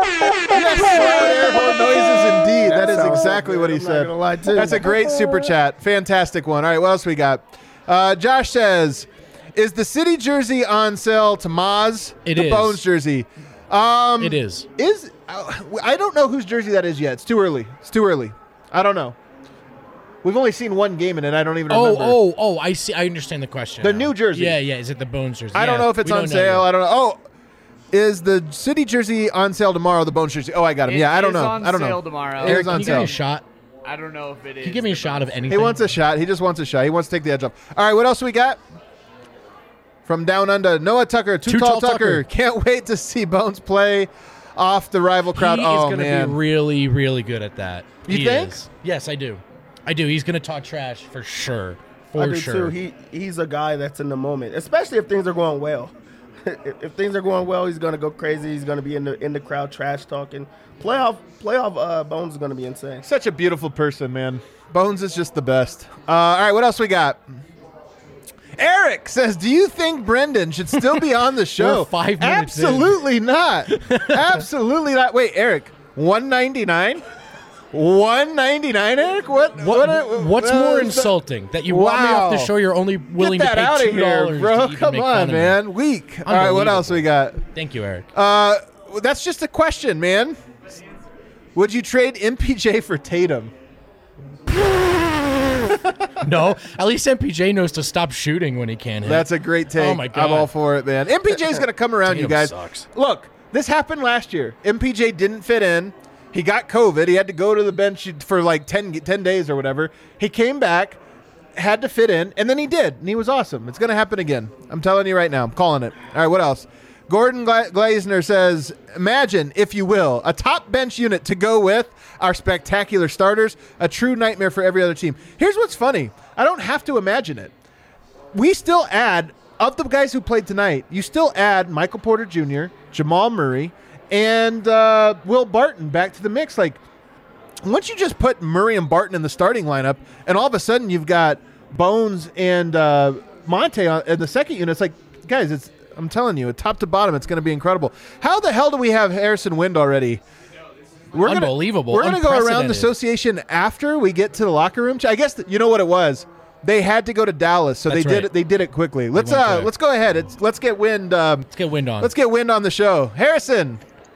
loud air horn noises indeed. That is sounds exactly so what good. he I'm not said. gonna lie, too. That's a great super chat. Fantastic one. All right, what else we got? Josh says, is the city jersey on sale to Maz? It the is. Bones jersey. It is. I don't know whose jersey that is yet. It's too early. I don't know. We've only seen one game in it. I don't even remember. Oh, I see. I understand the question. The now. new jersey. Yeah. Is it the Bones jersey? I don't know if it's on sale. I don't know. Oh, is the city jersey on sale tomorrow? The Bones jersey. Oh, I got him. Yeah, I don't know. I don't know. Sale tomorrow. It Eric, is can on you give me sale. a shot? I don't know if it is. Can you give me a shot of anything? He wants a shot. He just wants a shot. He wants to take the edge off. All right, what else we got? From down under, Noah Tucker, Too Tall Tucker. Can't wait to see Bones play off the rival crowd. He Oh, is going to man. be really, really good at that. You He think? is. Yes, I do. He's going to talk trash for sure. I For do sure. too. He's a guy that's in the moment, especially if things are going well. If things are going well, he's gonna go crazy. He's gonna be in the crowd trash talking. Playoff Bones is gonna be insane. Such a beautiful person, man. Bones is just the best. All right, what else we got? Eric says, do you think Brendan should still be on the show? We're 5 minutes in. Absolutely not. Absolutely not. Wait, Eric, $199? $199, Eric? What's more insulting? That you want me off the show, you're only willing Get to that pay out of here, $2 bro. to even Come make on, fun of me. man. Weak. All right, what else we got? Thank you, Eric. That's just a question, man. Would you trade MPJ for Tatum? No, at least MPJ knows to stop shooting when he can hit. That's a great take. Oh, my God. I'm all for it, man. MPJ's going to come around, you Tatum guys. sucks. Look, this happened last year. MPJ didn't fit in. He got COVID. He had to go to the bench for like 10 days or whatever. He came back, had to fit in, and then he did, and he was awesome. It's going to happen again. I'm telling you right now. I'm calling it. All right, what else? Gordon Gleisner says, imagine, if you will, a top bench unit to go with our spectacular starters, a true nightmare for every other team. Here's what's funny. I don't have to imagine it. We still add, of the guys who played tonight, you still add Michael Porter Jr., Jamal Murray, and Will Barton back to the mix. Like, once you just put Murray and Barton in the starting lineup, and all of a sudden you've got Bones and Monte in the second unit, it's like, guys, I'm telling you, top to bottom, it's going to be incredible. How the hell do we have Harrison Wind already? Unbelievable. We're going to go around the Unprecedented. association after we get to the locker room. I guess you know what it was. They had to go to Dallas, so That's they did right. it. They did it quickly. Let's went there. let's go ahead. Let's get Wind. Let's get Wind on. Let's get Wind on the show. Harrison.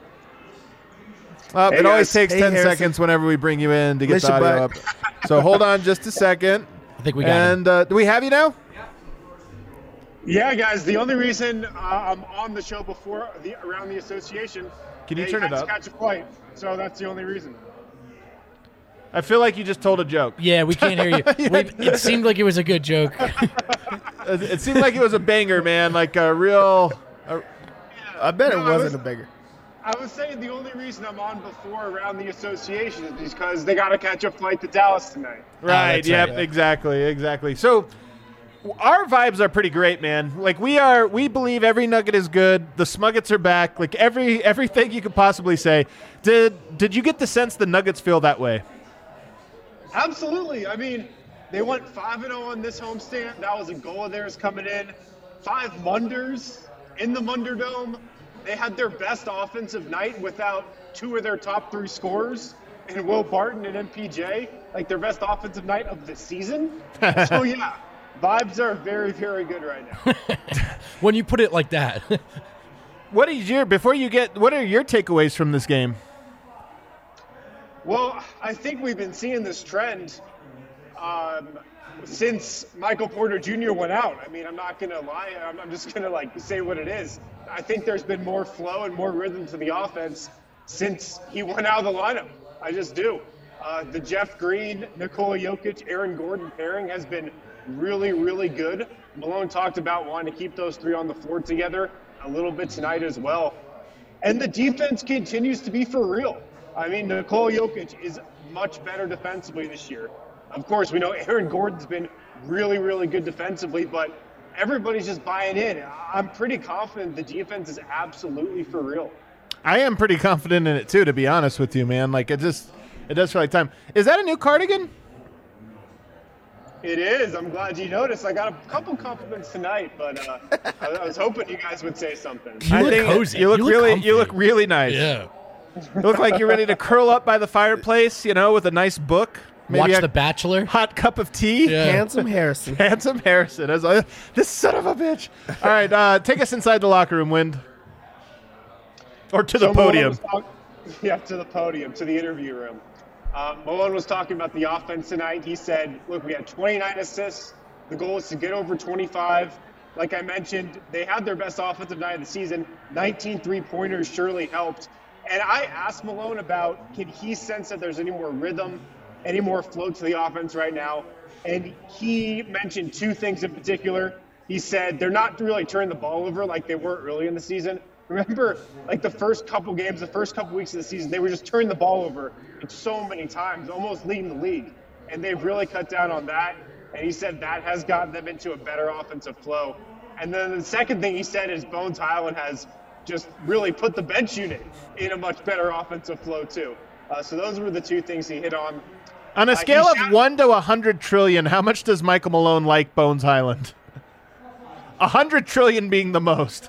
Hey, it always guys. takes Hey, 10 Harrison. seconds whenever we bring you in to get Miss the you, audio up. bud. So hold on just a second. I think we got him. And do we have you now? Yeah, guys. The only reason I'm on the show before around the association, Can you they turn had it to up? Catch a flight, so that's the only reason. I feel like you just told a joke. Yeah, we can't hear you. It seemed like it was a good joke. It seemed like it was a banger, man. Like a real. I bet it No, I wasn't was- a bigger. I was saying the only reason I'm on before around the association is because they got to catch a flight to Dallas tonight. Right. that's Yep. right. Exactly. So our vibes are pretty great, man. Like we believe every Nugget is good. The Smuggets are back. Like everything you could possibly say. Did you get the sense the Nuggets feel that way? Absolutely. I mean, they went 5-0 on this homestand. That was a goal of theirs coming in. 5 Munders in the Munderdome. They had their best offensive night without 2 of their top 3 scorers, and Will Barton and MPJ, like their best offensive night of the season. So yeah, vibes are very, very good right now. When you put it like that. What are your takeaways from this game? Well, I think we've been seeing this trend since Michael Porter Jr. went out. I mean, I'm not going to lie. I'm just going to say what it is. I think there's been more flow and more rhythm to the offense since he went out of the lineup. I just do. The Jeff Green, Nikola Jokic, Aaron Gordon pairing has been really, really good. Malone talked about wanting to keep those 3 on the floor together a little bit tonight as well. And the defense continues to be for real. I mean, Nikola Jokic is much better defensively this year. Of course, we know Aaron Gordon's been really, really good defensively, but everybody's just buying in. I'm pretty confident the defense is absolutely for real. I am pretty confident in it too, to be honest with you, man. Like it does feel like time. Is that a new cardigan? It is. I'm glad you noticed. I got a couple compliments tonight, but I was hoping you guys would say something. You look cozy. You look comfy. really nice. Yeah. You look like you're ready to curl up by the fireplace, with a nice book. Maybe Watch a The Bachelor. hot cup of tea. Yeah. Handsome Harrison. Handsome Harrison. This son of a bitch. All right, take us inside the locker room, Wind. Or to the So Malone podium. was to the podium, to the interview room. Malone was talking about the offense tonight. He said, look, we had 29 assists. The goal is to get over 25. Like I mentioned, they had their best offensive night of the season. 19 three-pointers surely helped. And I asked Malone about, can he sense that there's any more rhythm, any more flow to the offense right now? And he mentioned 2 things in particular. He said they're not really turning the ball over like they were early in the season. Remember, the first couple games, the first couple weeks of the season, they were just turning the ball over so many times, almost leading the league. And they've really cut down on that. And he said that has gotten them into a better offensive flow. And then the second thing he said is Bones Highland has just really put the bench unit in a much better offensive flow too. So those were the 2 things he hit on. On a scale he of 1 to 100 trillion, how much does Michael Malone like Bones Highland? 100 trillion being the most.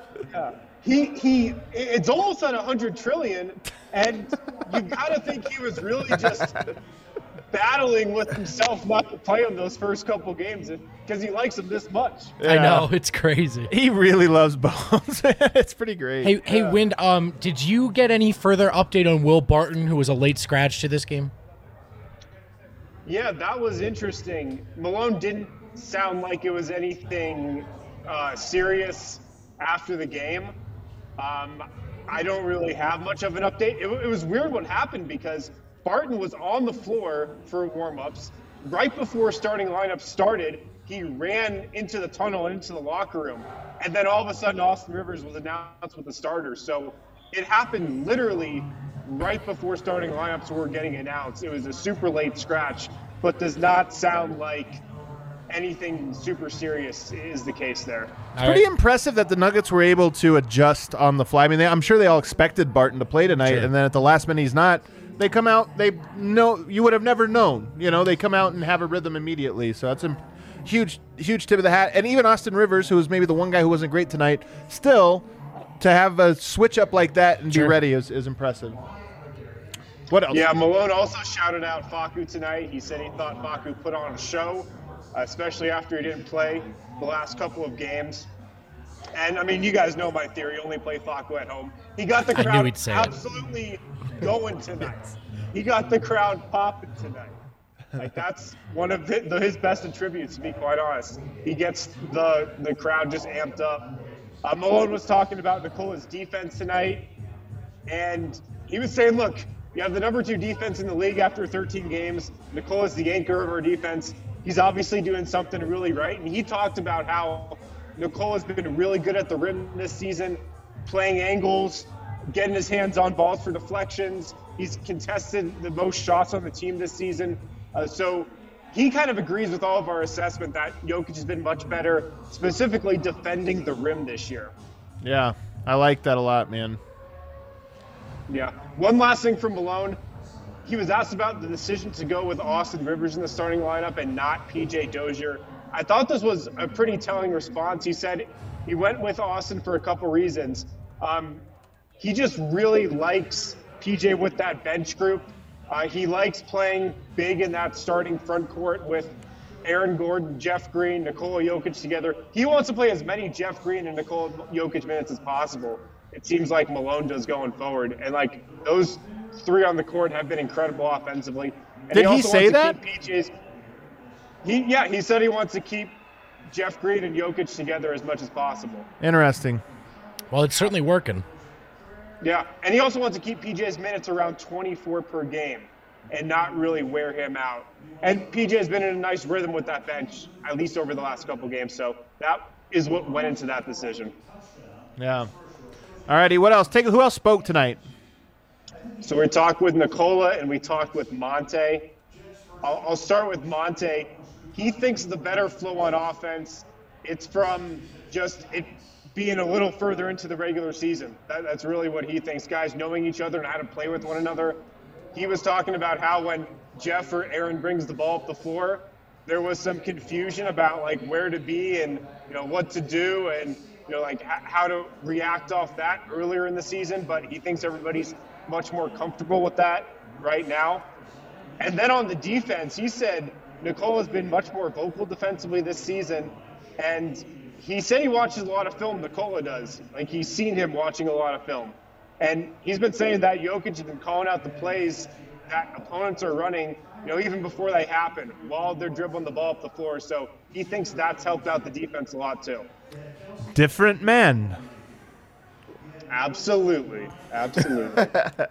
It's almost at 100 trillion, and you gotta think he was really just battling with himself not to play him those first couple games because he likes him this much. I know. It's crazy. He really loves Bones. It's pretty great. Hey, Wind, did you get any further update on Will Barton, who was a late scratch to this game? Yeah, that was interesting. Malone didn't sound like it was anything serious after the game. I don't really have much of an update. It was weird what happened because Barton was on the floor for warm-ups. Right before starting lineup started, he ran into the tunnel and into the locker room. And then all of a sudden, Austin Rivers was announced with the starters. So it happened literally right before starting lineups were getting announced. It was a super late scratch, but does not sound like anything super serious is the case there. It's pretty impressive that the Nuggets were able to adjust on the fly. I mean, I'm sure they all expected Barton to play tonight, Sure. and then at the last minute he's not. They come out, they know, you would have never known. You know, they come out and have a rhythm immediately. So that's a huge tip of the hat. And even Austin Rivers, who was maybe the one guy who wasn't great tonight, still to have a switch up like that and be ready is impressive. What else? Yeah, Malone also shouted out Facu tonight. He said he thought Facu put on a show, especially after he didn't play the last couple of games. And, I mean, you guys know my theory, only play Facu at home. He got the I knew crowd he'd say it. absolutely going tonight. He got the crowd popping tonight. Like, that's one of his best attributes, to be quite honest. He gets the crowd just amped up. Malone was talking about Nikola's defense tonight, and he was saying, look, you have the number 2 defense in the league after 13 games. Nikola's the anchor of our defense. He's obviously doing something really right, and he talked about how Nikola's been really good at the rim this season, playing angles, getting his hands on balls for deflections. He's contested the most shots on the team this season. So he kind of agrees with all of our assessment that Jokic has been much better, specifically defending the rim this year. Yeah, I like that a lot, man. Yeah. One last thing from Malone. He was asked about the decision to go with Austin Rivers in the starting lineup and not PJ Dozier. I thought this was a pretty telling response. He said he went with Austin for a couple reasons. He just really likes PJ with that bench group. He likes playing big in that starting front court with Aaron Gordon, Jeff Green, Nikola Jokic together. He wants to play as many Jeff Green and Nikola Jokic minutes as possible. It seems like Malone does going forward. And, like, those 3 on the court have been incredible offensively. And Did he also say wants to that? keep PJ's, he said he wants to keep Jeff Green and Jokic together as much as possible. Interesting. Well, it's certainly working. Yeah, and he also wants to keep PJ's minutes around 24 per game and not really wear him out. And PJ's been in a nice rhythm with that bench, at least over the last couple games. So that is what went into that decision. Yeah. All righty, what else? Who else spoke tonight? So we talked with Nikola and we talked with Monte. I'll start with Monte. He thinks the better flow on offense, it's from just it being a little further into the regular season. That's really what he thinks. Guys knowing each other and how to play with one another. He was talking about how when Jeff or Aaron brings the ball up the floor, there was some confusion about like where to be and what to do and like how to react off that earlier in the season. But he thinks everybody's much more comfortable with that right now. And then on the defense, he said Nikola's been much more vocal defensively this season, and he said he watches a lot of film. Nikola does. Like, he's seen him watching a lot of film. And he's been saying that Jokic has been calling out the plays that opponents are running, even before they happen, while they're dribbling the ball up the floor. So he thinks that's helped out the defense a lot, too. Different men. Absolutely. Absolutely.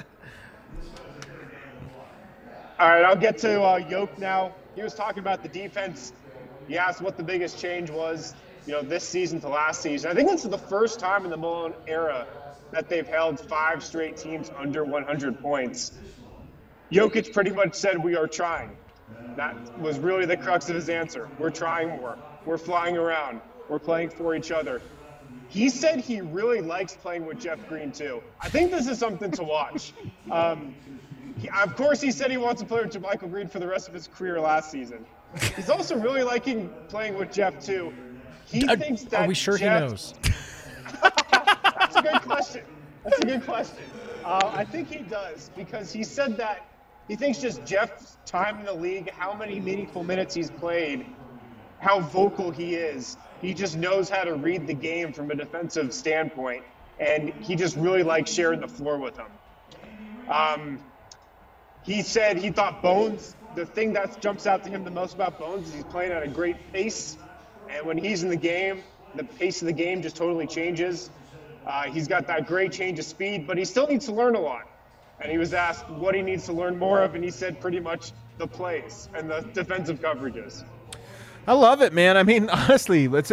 All right, I'll get to Yoke now. He was talking about the defense. He asked what the biggest change was, this season to last season. I think this is the first time in the Malone era that they've held 5 straight teams under 100 points. Jokic pretty much said, we are trying. That was really the crux of his answer. We're trying more. We're flying around. We're playing for each other. He said he really likes playing with Jeff Green, too. I think this is something to watch. Of course, he said he wants to play with JaMychal Green for the rest of his career last season. He's also really liking playing with Jeff, too. He thinks that Are we sure Jeff, he knows? That's a good question. I think he does, because he said that he thinks just Jeff's time in the league, how many meaningful minutes he's played, how vocal he is. He just knows how to read the game from a defensive standpoint, and he just really likes sharing the floor with him. He said he thought Bones the thing that jumps out to him the most about Bones is he's playing at a great pace. And when he's in the game, the pace of the game just totally changes. He's got that great change of speed, but he still needs to learn a lot. And he was asked what he needs to learn more of, and he said pretty much the plays and the defensive coverages. I love it, man. I mean, honestly, it's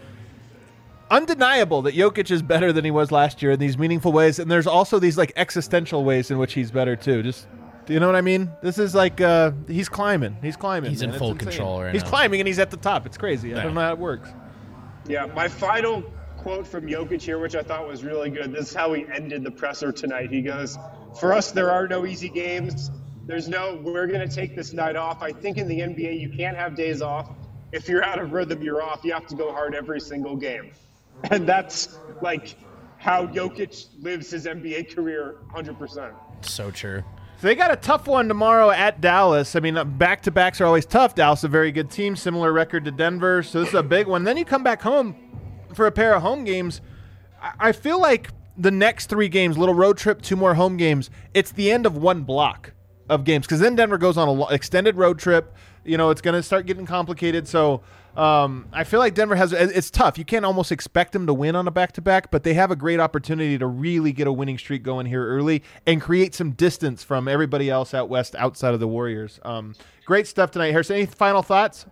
undeniable that Jokic is better than he was last year in these meaningful ways, and there's also these like existential ways in which he's better too. Just, do you know what I mean? This is like he's climbing. He's climbing. He's man. in full control right He's now. climbing and he's at the top. It's crazy. I don't know how it works. Yeah, my final quote from Jokic here, which I thought was really good. This is how he ended the presser tonight. He goes, "For us, there are no easy games. There's no, we're going to take this night off. I think in the NBA, you can't have days off. If you're out of rhythm, you're off. You have to go hard every single game." And that's like how Jokic lives his NBA career 100%. So true. So they got a tough one tomorrow at Dallas. I mean, back-to-backs are always tough. Dallas is a very good team, similar record to Denver. So this is a big one. Then you come back home for a pair of home games. I feel like the next 3 games, little road trip, 2 more home games, it's the end of one block of games because then Denver goes on an extended road trip. You know, it's going to start getting complicated. So I feel like Denver it's tough. You can't almost expect them to win on a back-to-back, but they have a great opportunity to really get a winning streak going here early and create some distance from everybody else out west outside of the Warriors. Great stuff tonight. Harrison, any final thoughts?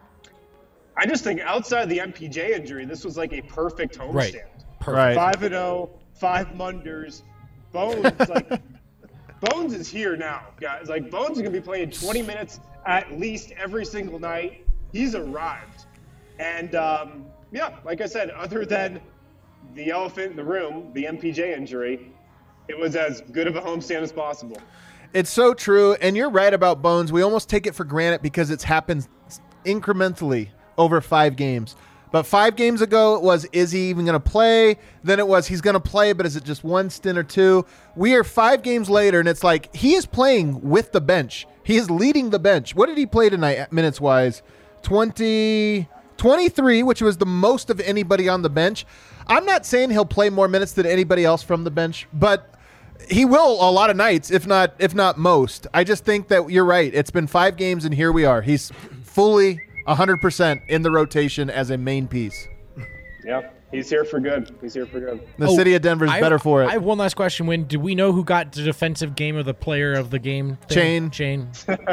I just think outside the MPJ injury, this was like a perfect homestand. Right. Right. 5-0, 5 Munders. Bones, Bones is here now, guys. Like, Bones is going to be playing 20 minutes at least every single night. He's arrived. And, yeah, like I said, other than the elephant in the room, the MPJ injury, it was as good of a homestand as possible. It's so true, and you're right about Bones. We almost take it for granted because it's happened incrementally over 5 games. But 5 games ago, it was, is he even going to play? Then it was, he's going to play, but is it just 1 stint or 2? We are 5 games later, and it's like he is playing with the bench. He is leading the bench. What did he play tonight, minutes-wise? 23, which was the most of anybody on the bench. I'm not saying he'll play more minutes than anybody else from the bench, but he will a lot of nights, if not most. I just think that you're right. It's been 5 games, and here we are. He's fully 100% in the rotation as a main piece. Yep, he's here for good. He's here for good. The city of Denver is better for it. I have one last question. Do we know who got the defensive game of the player of the game thing? Chain.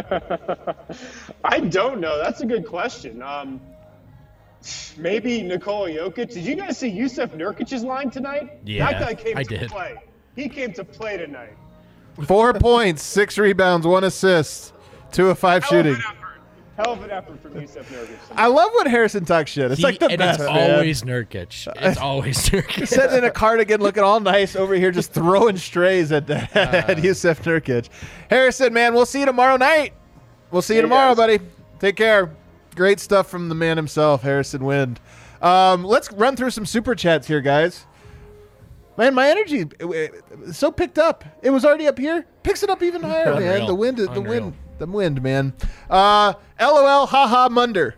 I don't know. That's a good question. Maybe Nikola Jokic. Did you guys see Yusuf Nurkic's line tonight? Yeah, that guy came I to did. play. He came to play tonight. 4 points, 6 rebounds, 1 assist, 2 of 5 shooting. Hell of an effort from Yusuf Nurkic. I love when Harrison talks shit. It's like the best, it's man. always Nurkic. It's always Nurkic. Sitting in a cardigan looking all nice over here just throwing strays at Yusuf Nurkic. Harrison, man, we'll see you tomorrow night. We'll see you tomorrow, buddy. Take care. Great stuff from the man himself, Harrison Wind. Let's run through some super chats here, guys. Man, my energy so picked up. It was already up here. Picks it up even higher, man. The wind, man. LOL, haha, Munder.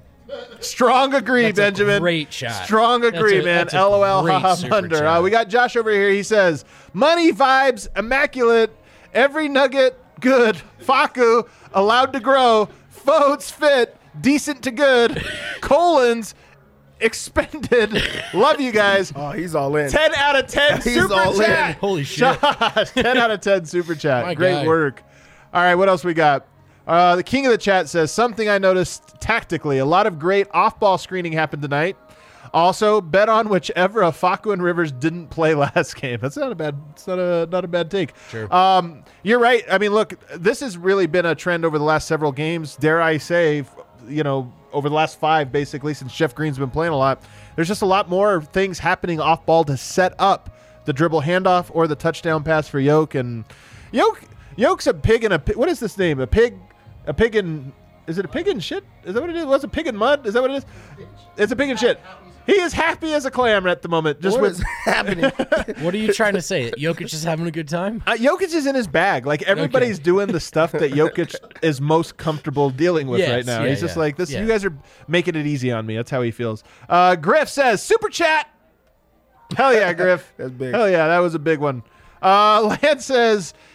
Strong agree, That's Benjamin. a great shot. Strong agree, man. That's a LOL, great haha, super Munder. chat. We got Josh over here. He says, money vibes, immaculate, every nugget, good. Faku, allowed to grow. Votes fit, decent to good. Colons, expended. Love you guys. Oh, he's all in. 10 out of 10 He's super all in. chat. Holy shit. Josh, 10 out of 10 super chat. My Great guy. work. All right, what else we got? The king of the chat says, something I noticed tactically. A lot of great off-ball screening happened tonight. Also, bet on whichever of Facu and Rivers didn't play last game. That's not a bad. It's not a bad take. Sure. You're right. I mean, look, this has really been a trend over the last several games. Dare I say, over the last 5, basically, since Jeff Green's been playing a lot. There's just a lot more things happening off ball to set up the dribble handoff or the touchdown pass for Yoke. And Yoke's a pig in a what is this name? A pig in. Is it a pig in shit? Is that what it is? What's a pig in mud? Is that what it is? It's a pig in shit. He is happy as a clam at the moment. Just What is happening? What are you trying to say? Jokic is having a good time? Jokic is in his bag. Like, everybody's doing the stuff that Jokic is most comfortable dealing with Yes, right now. yeah, He's just yeah, like, this. yeah. You guys are making it easy on me. That's how he feels. Griff says, super chat. Hell yeah, Griff. That's big. Hell yeah, that was a big one. Lance says,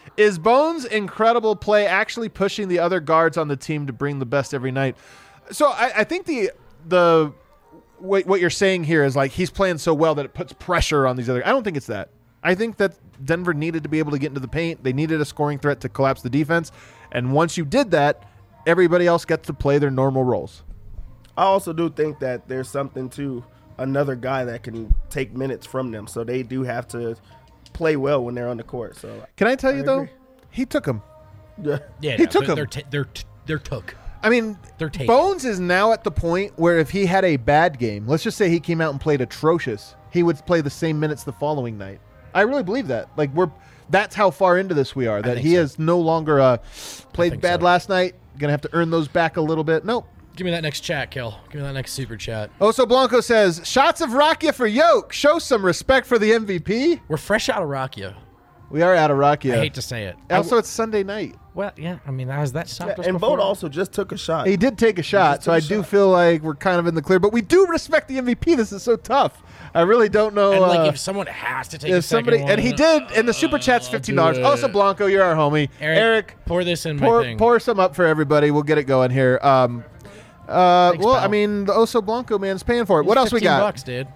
Is Bones' incredible play actually pushing the other guards on the team to bring the best every night? So I think the what you're saying here is like he's playing so well that it puts pressure on these other. I don't think it's that. I think that Denver needed to be able to get into the paint. They needed a scoring threat to collapse the defense. And once you did that, everybody else gets to play their normal roles. I also do think that there's something to another guy that can take minutes from them. So they do have to play well when they're on the court. So can I tell you, though? agree. He took him. Yeah. Yeah, He took 'em. They're took. I mean, They're taken. Bones is now at the point where if he had a bad game, let's just say he came out and played atrocious, he would play the same minutes the following night. I really believe that. Like that's how far into this we are. That he is no longer played bad last night. Gonna have to earn those back a little bit. Nope. Give me that next chat, Kill. Give me that next super chat. Oso Blanco says, shots of Rakia for Yoke. Show some respect for the MVP. We're fresh out of Rakia. We are out of Rakia. I hate to say it. Also, it's Sunday night. Well, yeah. I mean, has that stopped us And before? Vogt also just took a shot. He did take a shot, so I do feel like we're kind of in the clear. But we do respect the MVP. This is so tough. I really don't know. And like, if someone has to take a second one, and he did, and the super chat's $15. do it. Also, Blanco, you're our homie. Eric, pour this in my thing. Pour some up for everybody. We'll get it going here. Thanks, well, pal. I mean, the Oso Blanco man's paying for it. What else we got? $15, dude.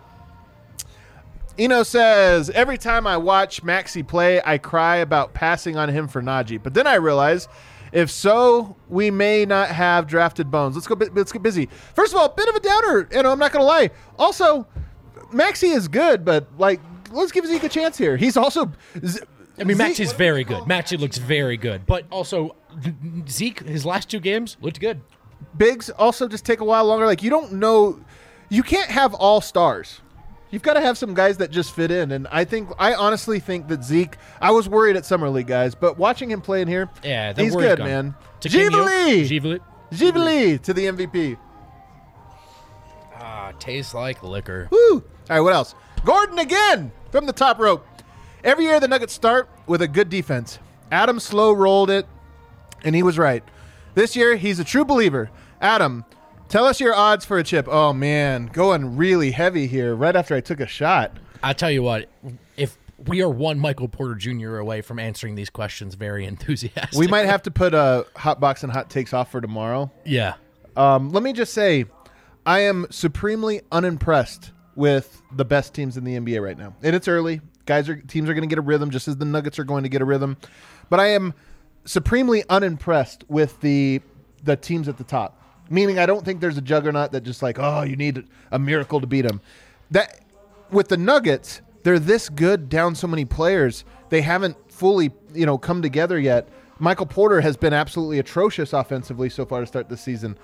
Eno says, every time I watch Maxey play, I cry about passing on him for Najee. But then I realize, if so, we may not have drafted Bones. Let's get busy. First of all, a bit of a downer. I'm not going to lie. Also, Maxey is good, but like, let's give Zeke a chance here. He's also. I mean, Maxey's very good. Maxey looks very good. But also, Zeke, his last 2 games looked good. Biggs also just take a while longer. Like, you don't know. You can't have all stars. You've got to have some guys that just fit in. And I honestly think that Zeke, I was worried at Summer League, guys, but watching him play in here, Yeah, the he's word's good, gone. man. To King Yoke, Givali! Givali to the MVP. Tastes like liquor. Woo! All right, what else? Gordon again from the top rope. Every year the Nuggets start with a good defense. Adam slow rolled it, and he was right. This year, he's a true believer. Adam, tell us your odds for a chip. Oh, man, going really heavy here right after I took a shot. I'll tell you what, if we are one Michael Porter Jr. away from answering these questions very enthusiastic. We might have to put Hot Box and Hot Takes off for tomorrow. Yeah. Let me just say, I am supremely unimpressed with the best teams in the NBA right now. And it's early. Teams are going to get a rhythm, just as the Nuggets are going to get a rhythm. But I am supremely unimpressed with the teams at the top. Meaning I don't think there's a juggernaut that just like, oh, you need a miracle to beat them. That with the Nuggets, they're this good down so many players. They haven't fully, come together yet. Michael Porter has been absolutely atrocious offensively so far to start the season.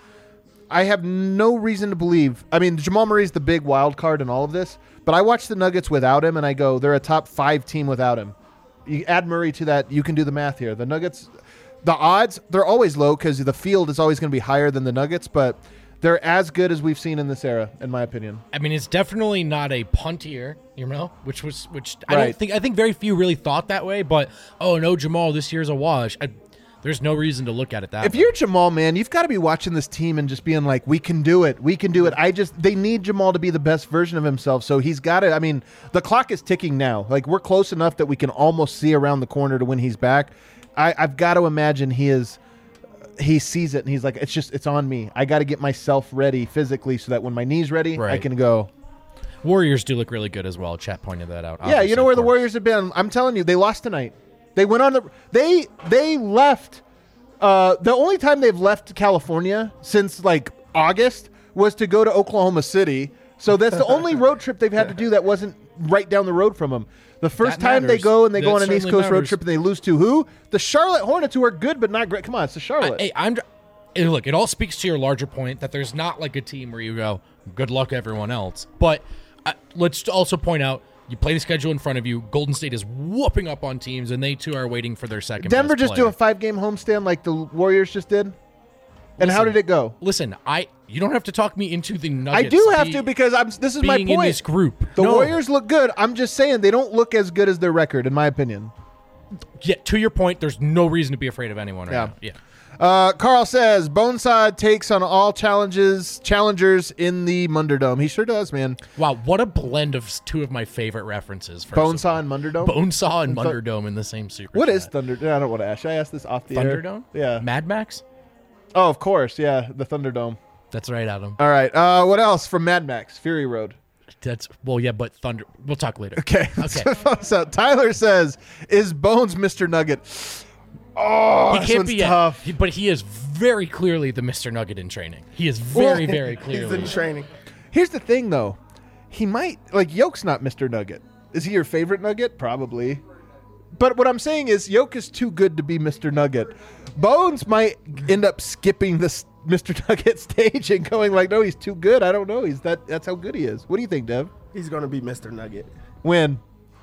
I have no reason to believe. I mean, Jamal Murray's the big wild card in all of this, but I watch the Nuggets without him, and I go, they're a top 5 team without him. You add Murray to that, you can do the math here. The Nuggets, the odds, they're always low because the field is always going to be higher than the Nuggets, but they're as good as we've seen in this era, in my opinion. I mean, it's definitely not a punt year, which I Right. I think very few really thought that way, but, oh, no, Jamal, this year's a wash. There's no reason to look at it that If way. you're Jamal, man, you've got to be watching this team and just being like, we can do it. We can do it. They need Jamal to be the best version of himself. So he's got to, I mean, the clock is ticking now. Like, we're close enough that we can almost see around the corner to when he's back. I've got to imagine he sees it and he's like, it's on me. I got to get myself ready physically so that when my knee's ready, I Right. can go. Warriors do look really good as well. Chat pointed that out. Yeah, you know where the Warriors. Warriors have been. I'm telling you, they lost tonight. They went on they left. The only time they've left California since like August was to go to Oklahoma City. So that's the only road trip they've had to do that wasn't right down the road from them. The first That time they matters. go and they That go on an East certainly Coast road matters. trip and they lose to who? The Charlotte Hornets, who are good but not great. Come on, it's the Charlotte. Hey, look, it all speaks to your larger point that there's not like a team where you go, good luck everyone else. But let's also point out, you play the schedule in front of you. Golden State is whooping up on teams, and they too are waiting for their second. Denver best just player. do a 5-game homestand like the Warriors just did. And how did it go? Listen, you don't have to talk me into the I Nuggets. do have to because this is my being in point. this group. The No. Warriors look good. I'm just saying they don't look as good as their record, in my opinion. Yeah, to your point, there's no reason to be afraid of anyone right Yeah. now. Yeah. Carl says Bonesaw takes on all challengers in the Munderdome. He sure does, man. Wow, what a blend of two of my favorite references. Bonesaw and Munderdome? Bonesaw and Munderdome in the same super What chat. is Thunderdome? I don't want to ask. Should I ask this off the air? Thunderdome? Yeah. Mad Max? Oh, of course. Yeah, the Thunderdome. That's right, Adam. All right. What else from Mad Max? Fury Road. But Thunder. We'll talk later. Okay. Okay. So Tyler says, is Bones Mr. Nugget? Oh, He can't be tough. but he is very clearly the Mr. Nugget in training. He is very, very He's clearly. in training. Here's the thing, though. He might, Yoke's not Mr. Nugget. Is he your favorite Nugget? Probably. But what I'm saying is Yoke is too good to be Mr. Nugget. Bones might end up skipping this Mr. Nugget stage and going like, no, he's too good. I don't know. That's how good he is. What do you think, Dev? He's going to be Mr. Nugget. When?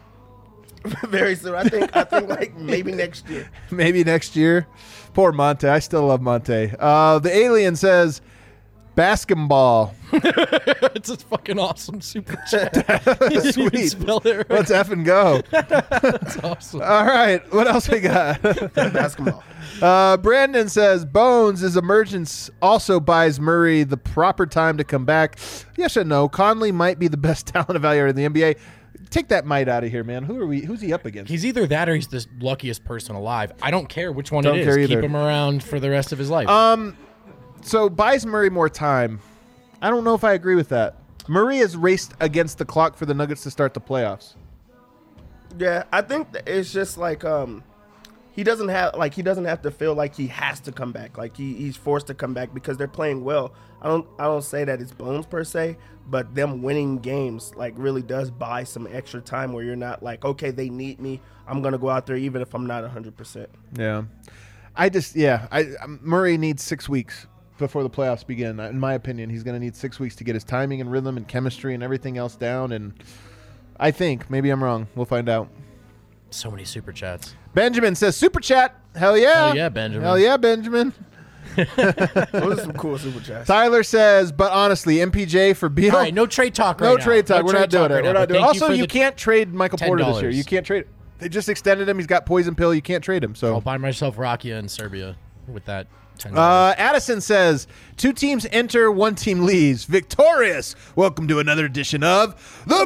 Very soon. I think like maybe next year. Maybe next year. Poor Monte. I still love Monte. The alien says, basketball. It's a fucking awesome super chat. You didn't even Sweet. spell it right. Let's F and go. That's awesome. All right. What else we got? Basketball. Brandon says Bones' emergence also buys Murray the proper time to come back. Yes and no. Conley might be the best talent evaluator in the NBA. Take that might out of here, man. Who's he up against? He's either that or he's the luckiest person alive. I don't care which one Don't it care is. either. Keep him around for the rest of his life. So buys Murray more time. I don't know if I agree with that. Murray has raced against the clock for the Nuggets to start the playoffs. Yeah, I think that it's just like he doesn't have to feel like he has to come back. Like he's forced to come back because they're playing well. I don't say that it's Bones per se, but them winning games like really does buy some extra time where you're not like, okay, they need me. I'm gonna go out there even if I'm not 100%. Yeah. Murray needs 6 weeks before the playoffs begin. In my opinion, he's going to need 6 weeks to get his timing and rhythm and chemistry and everything else down. And I think, maybe I'm wrong. We'll find out. So many super chats. Benjamin says, super chat. Hell yeah. Hell yeah, Benjamin. Hell yeah, Benjamin. Those are some cool super chats. Tyler says, but honestly, MPJ for Beal. All right, no trade talk right No now. trade talk. We're not doing it. We're not doing it. Also, you the can't trade Michael Porter this $10. year. You can't trade. They just extended him. He's got poison pill. You can't trade him. So I'll buy myself Rakia in Serbia with that $10. Addison says, 2 teams enter, 1 team leaves. Victorious. Welcome to another edition of the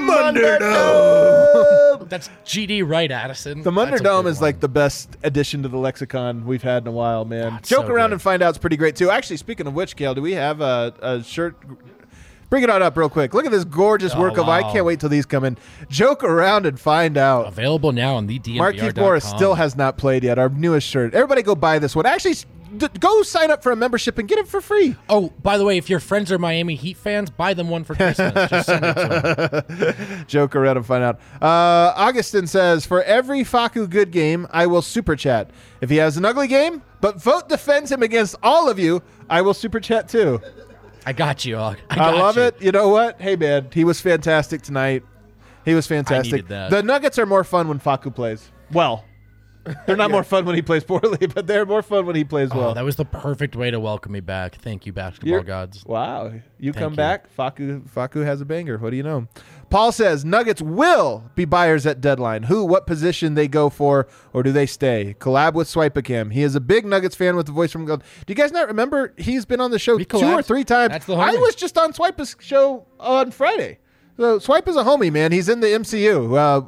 Munderdome. That's GD right, Addison. The That's a Munderdome good is one. like the best addition to the lexicon we've had in a while, man. it's Joke so around good. and find out is pretty great too. Actually, speaking of which, Kale, do we have a shirt? Bring it on up real quick. Look at this gorgeous work of. I wow. can't wait till these come in. Joke around and find out. Available now on the DNVR.com. Marquise Morris still has not played yet. Our newest shirt. Everybody go buy this one. Actually, go sign up for a membership and get it for free. Oh, by the way, if your friends are Miami Heat fans, buy them one for Christmas. Just send it to them. Joke around and find out. Augustin says, for every Facu good game, I will super chat. If he has an ugly game, but vote defends him against all of you, I will super chat too. I got you, Og. I love it. You know what? Hey, man, he was fantastic tonight. He was fantastic. needed that. The Nuggets are more fun when Facu plays. Well, they're not more fun when he plays poorly, but they're more fun when he plays well. Oh, that was the perfect way to welcome me back. Thank you, basketball You're- gods. Wow. You Thank come you. back, Facu has a banger. What do you know? Paul says, Nuggets will be buyers at deadline. What position they go for, or do they stay? Collab with Swipacam. He is a big Nuggets fan with the voice from Gold. Do you guys not remember? He's been on the show We 2 or collabed. 3 times. That's the I homie. was just on Swipe's show on Friday. So Swipe is a homie, man. He's in the MCU.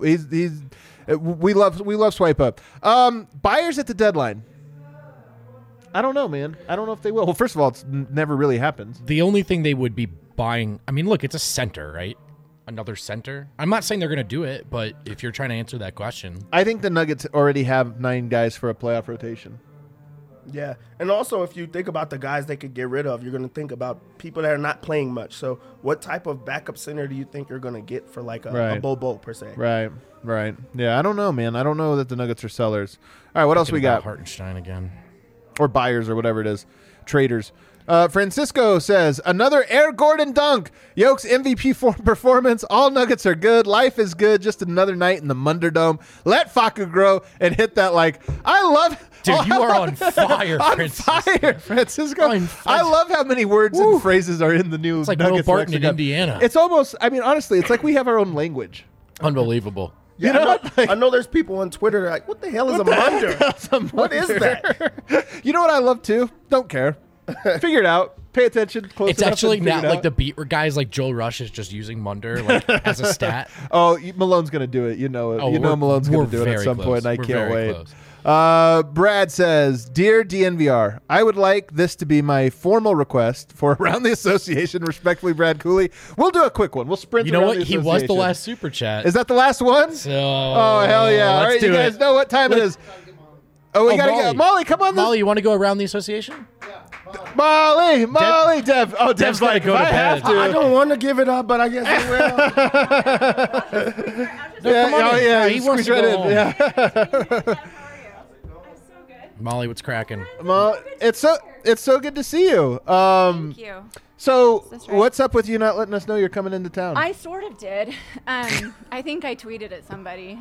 We love Swipe Up. Buyers at the deadline. I don't know, man. I don't know if they will. Well, first of all, it's never really happens. The only thing they would be buying, I mean, look, it's a center, right? Another center. I'm not saying they're going to do it, but if you're trying to answer that question, I think the Nuggets already have 9 guys for a playoff rotation. Yeah, and also if you think about the guys they could get rid of, you're going to think about people that are not playing much. So what type of backup center do you think you're going to get for like a Right. Bobo per se? Right. Yeah, I don't know, man. I don't know that the Nuggets are sellers. All right, what else we Thinking got? about Hartenstein again. Or buyers or whatever it is. Traders. Francisco says, another Air Gordon dunk. Yoke's MVP performance. All Nuggets are good. Life is good. Just another night in the Munderdome. Let Facu grow and hit that like. I love. Dude, you are on fire, on Francisco. fire, Francisco. On fire. I love how many words and phrases are in the new It's like Nuggets Will Barton in lexicon. Indiana. It's almost. I mean, honestly, it's like we have our own language. Unbelievable. Yeah, You know, I know there's people on Twitter that are like, what the hell is a munder? What is that? You know what I love too? Don't care. Figure it out. Pay attention. Close It's enough actually and figure not it like out. the beat guys like Joel Rush is just using Munder like as a stat. Oh, Malone's gonna do it. You know it. Oh, you know Malone's we're gonna do it at very some close. point, and I We're can't very wait. close. Brad says, "Dear DNVR, I would like this to be my formal request for Around the Association. Respectfully, Brad Cooley." We'll do a quick one. We'll sprint. You know Around what? the He was the Association. last super chat. Is that the last one? So Oh hell yeah! All let's right, do you guys it. know what time it is. Oh, we gotta Molly. go. Molly, come on. Molly, you want to go around the association? Molly, Dev. Oh, Dev's gotta like, go if to I have bed. to. I don't want to give it up, but I guess I will. Yeah, come on oh in. yeah, He wants squeeze to right go in. home. Yeah. Molly, what's cracking? It's so good to see you. Thank you. So That's right. what's up with you not letting us know you're coming into town? I sort of did. I think I tweeted at somebody.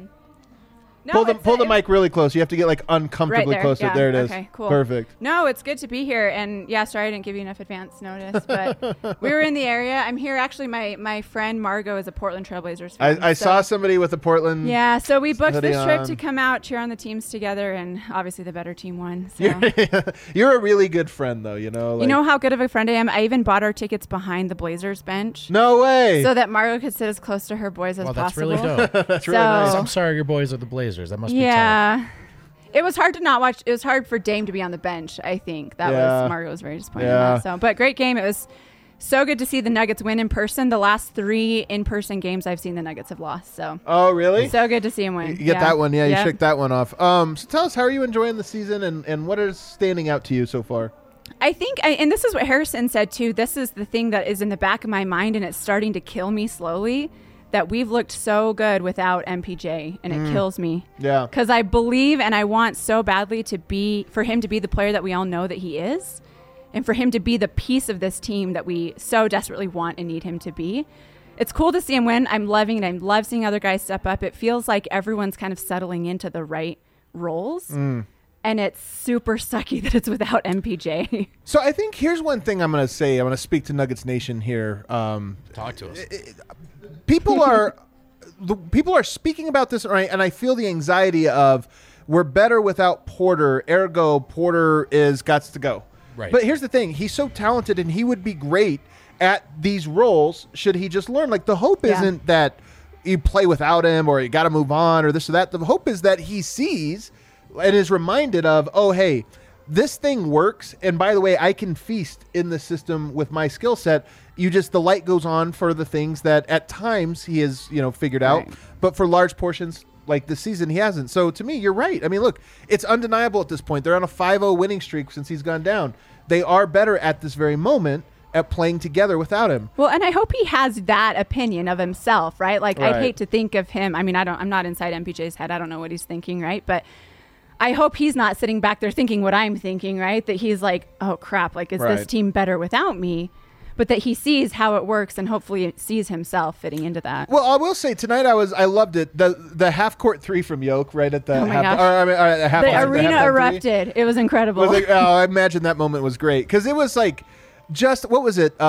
No, pull the it's- pull the it- mic really close. You have to get like right uncomfortably there. close to Yeah. it. There it is. Okay, cool. Perfect. No, it's good to be here. And yeah, sorry I didn't give you enough advance notice, but we were in the area. I'm here. Actually, my friend Margot is a Portland Trailblazers fan. I saw somebody with a Portland. Yeah, so we booked hoodie this trip on. to come out, cheer on the teams together, and obviously the better team won. So. You're a really good friend, though. You know. Like, You know how good of a friend I am? I even bought our tickets behind the Blazers bench No way. so that Margot could sit as close to her boys as Well, that's possible. really dope. That's really nice. So- I'm sorry your boys are the Blazers. That must be tough. Yeah. It was hard to not watch. It was hard for Dame to be on the bench, I think. That Yeah. was Margot was very disappointed in Yeah. that. So, but great game. It was so good to see the Nuggets win in person. The last 3 in-person games I've seen the Nuggets have lost. So, Oh really? so good to see them win. You get that one, yeah. You Yep. shook that one off. So tell us, how are you enjoying the season, and what is standing out to you so far? I think, and this is what Harrison said too, this is the thing that is in the back of my mind and it's starting to kill me slowly, that we've looked so good without MPJ, and it kills me. Yeah. Because I believe and I want so badly for him to be the player that we all know that he is, and for him to be the piece of this team that we so desperately want and need him to be. It's cool to see him win. I'm loving it. I love seeing other guys step up. It feels like everyone's kind of settling into the right roles. And it's super sucky that it's without MPJ. So I think here's one thing I'm going to say. I'm going to speak to Nuggets Nation here. Talk to us. People are speaking about this, right? And I feel the anxiety of we're better without Porter. Ergo, Porter is gots to go. Right. But here's the thing: he's so talented, and he would be great at these roles. Should he just learn? Like the hope Yeah. isn't that you play without him or you got to move on or this or that. The hope is that he sees and is reminded of, oh, hey, this thing works. And by the way, I can feast in the system with my skill set. The light goes on for the things that at times he has, figured out. Right. But for large portions like this season, he hasn't. So to me, you're right. I mean, look, it's undeniable at this point. They're on a 5-0 winning streak since he's gone down. They are better at this very moment at playing together without him. Well, and I hope he has that opinion of himself, right? Like, Right. I'd hate to think of him. I mean, I'm not inside MPJ's head. I don't know what he's thinking, right? But I hope he's not sitting back there thinking what I'm thinking, right? That he's like, oh crap, like, is this Right. team better without me? But that he sees how it works and hopefully sees himself fitting into that. Well, I will say tonight I loved it. The half court 3 from Yoke right at the Oh my half, gosh. or, I mean, half The halftime arena three. erupted. It was incredible. Was like, I imagine that moment was great because it was like just what was it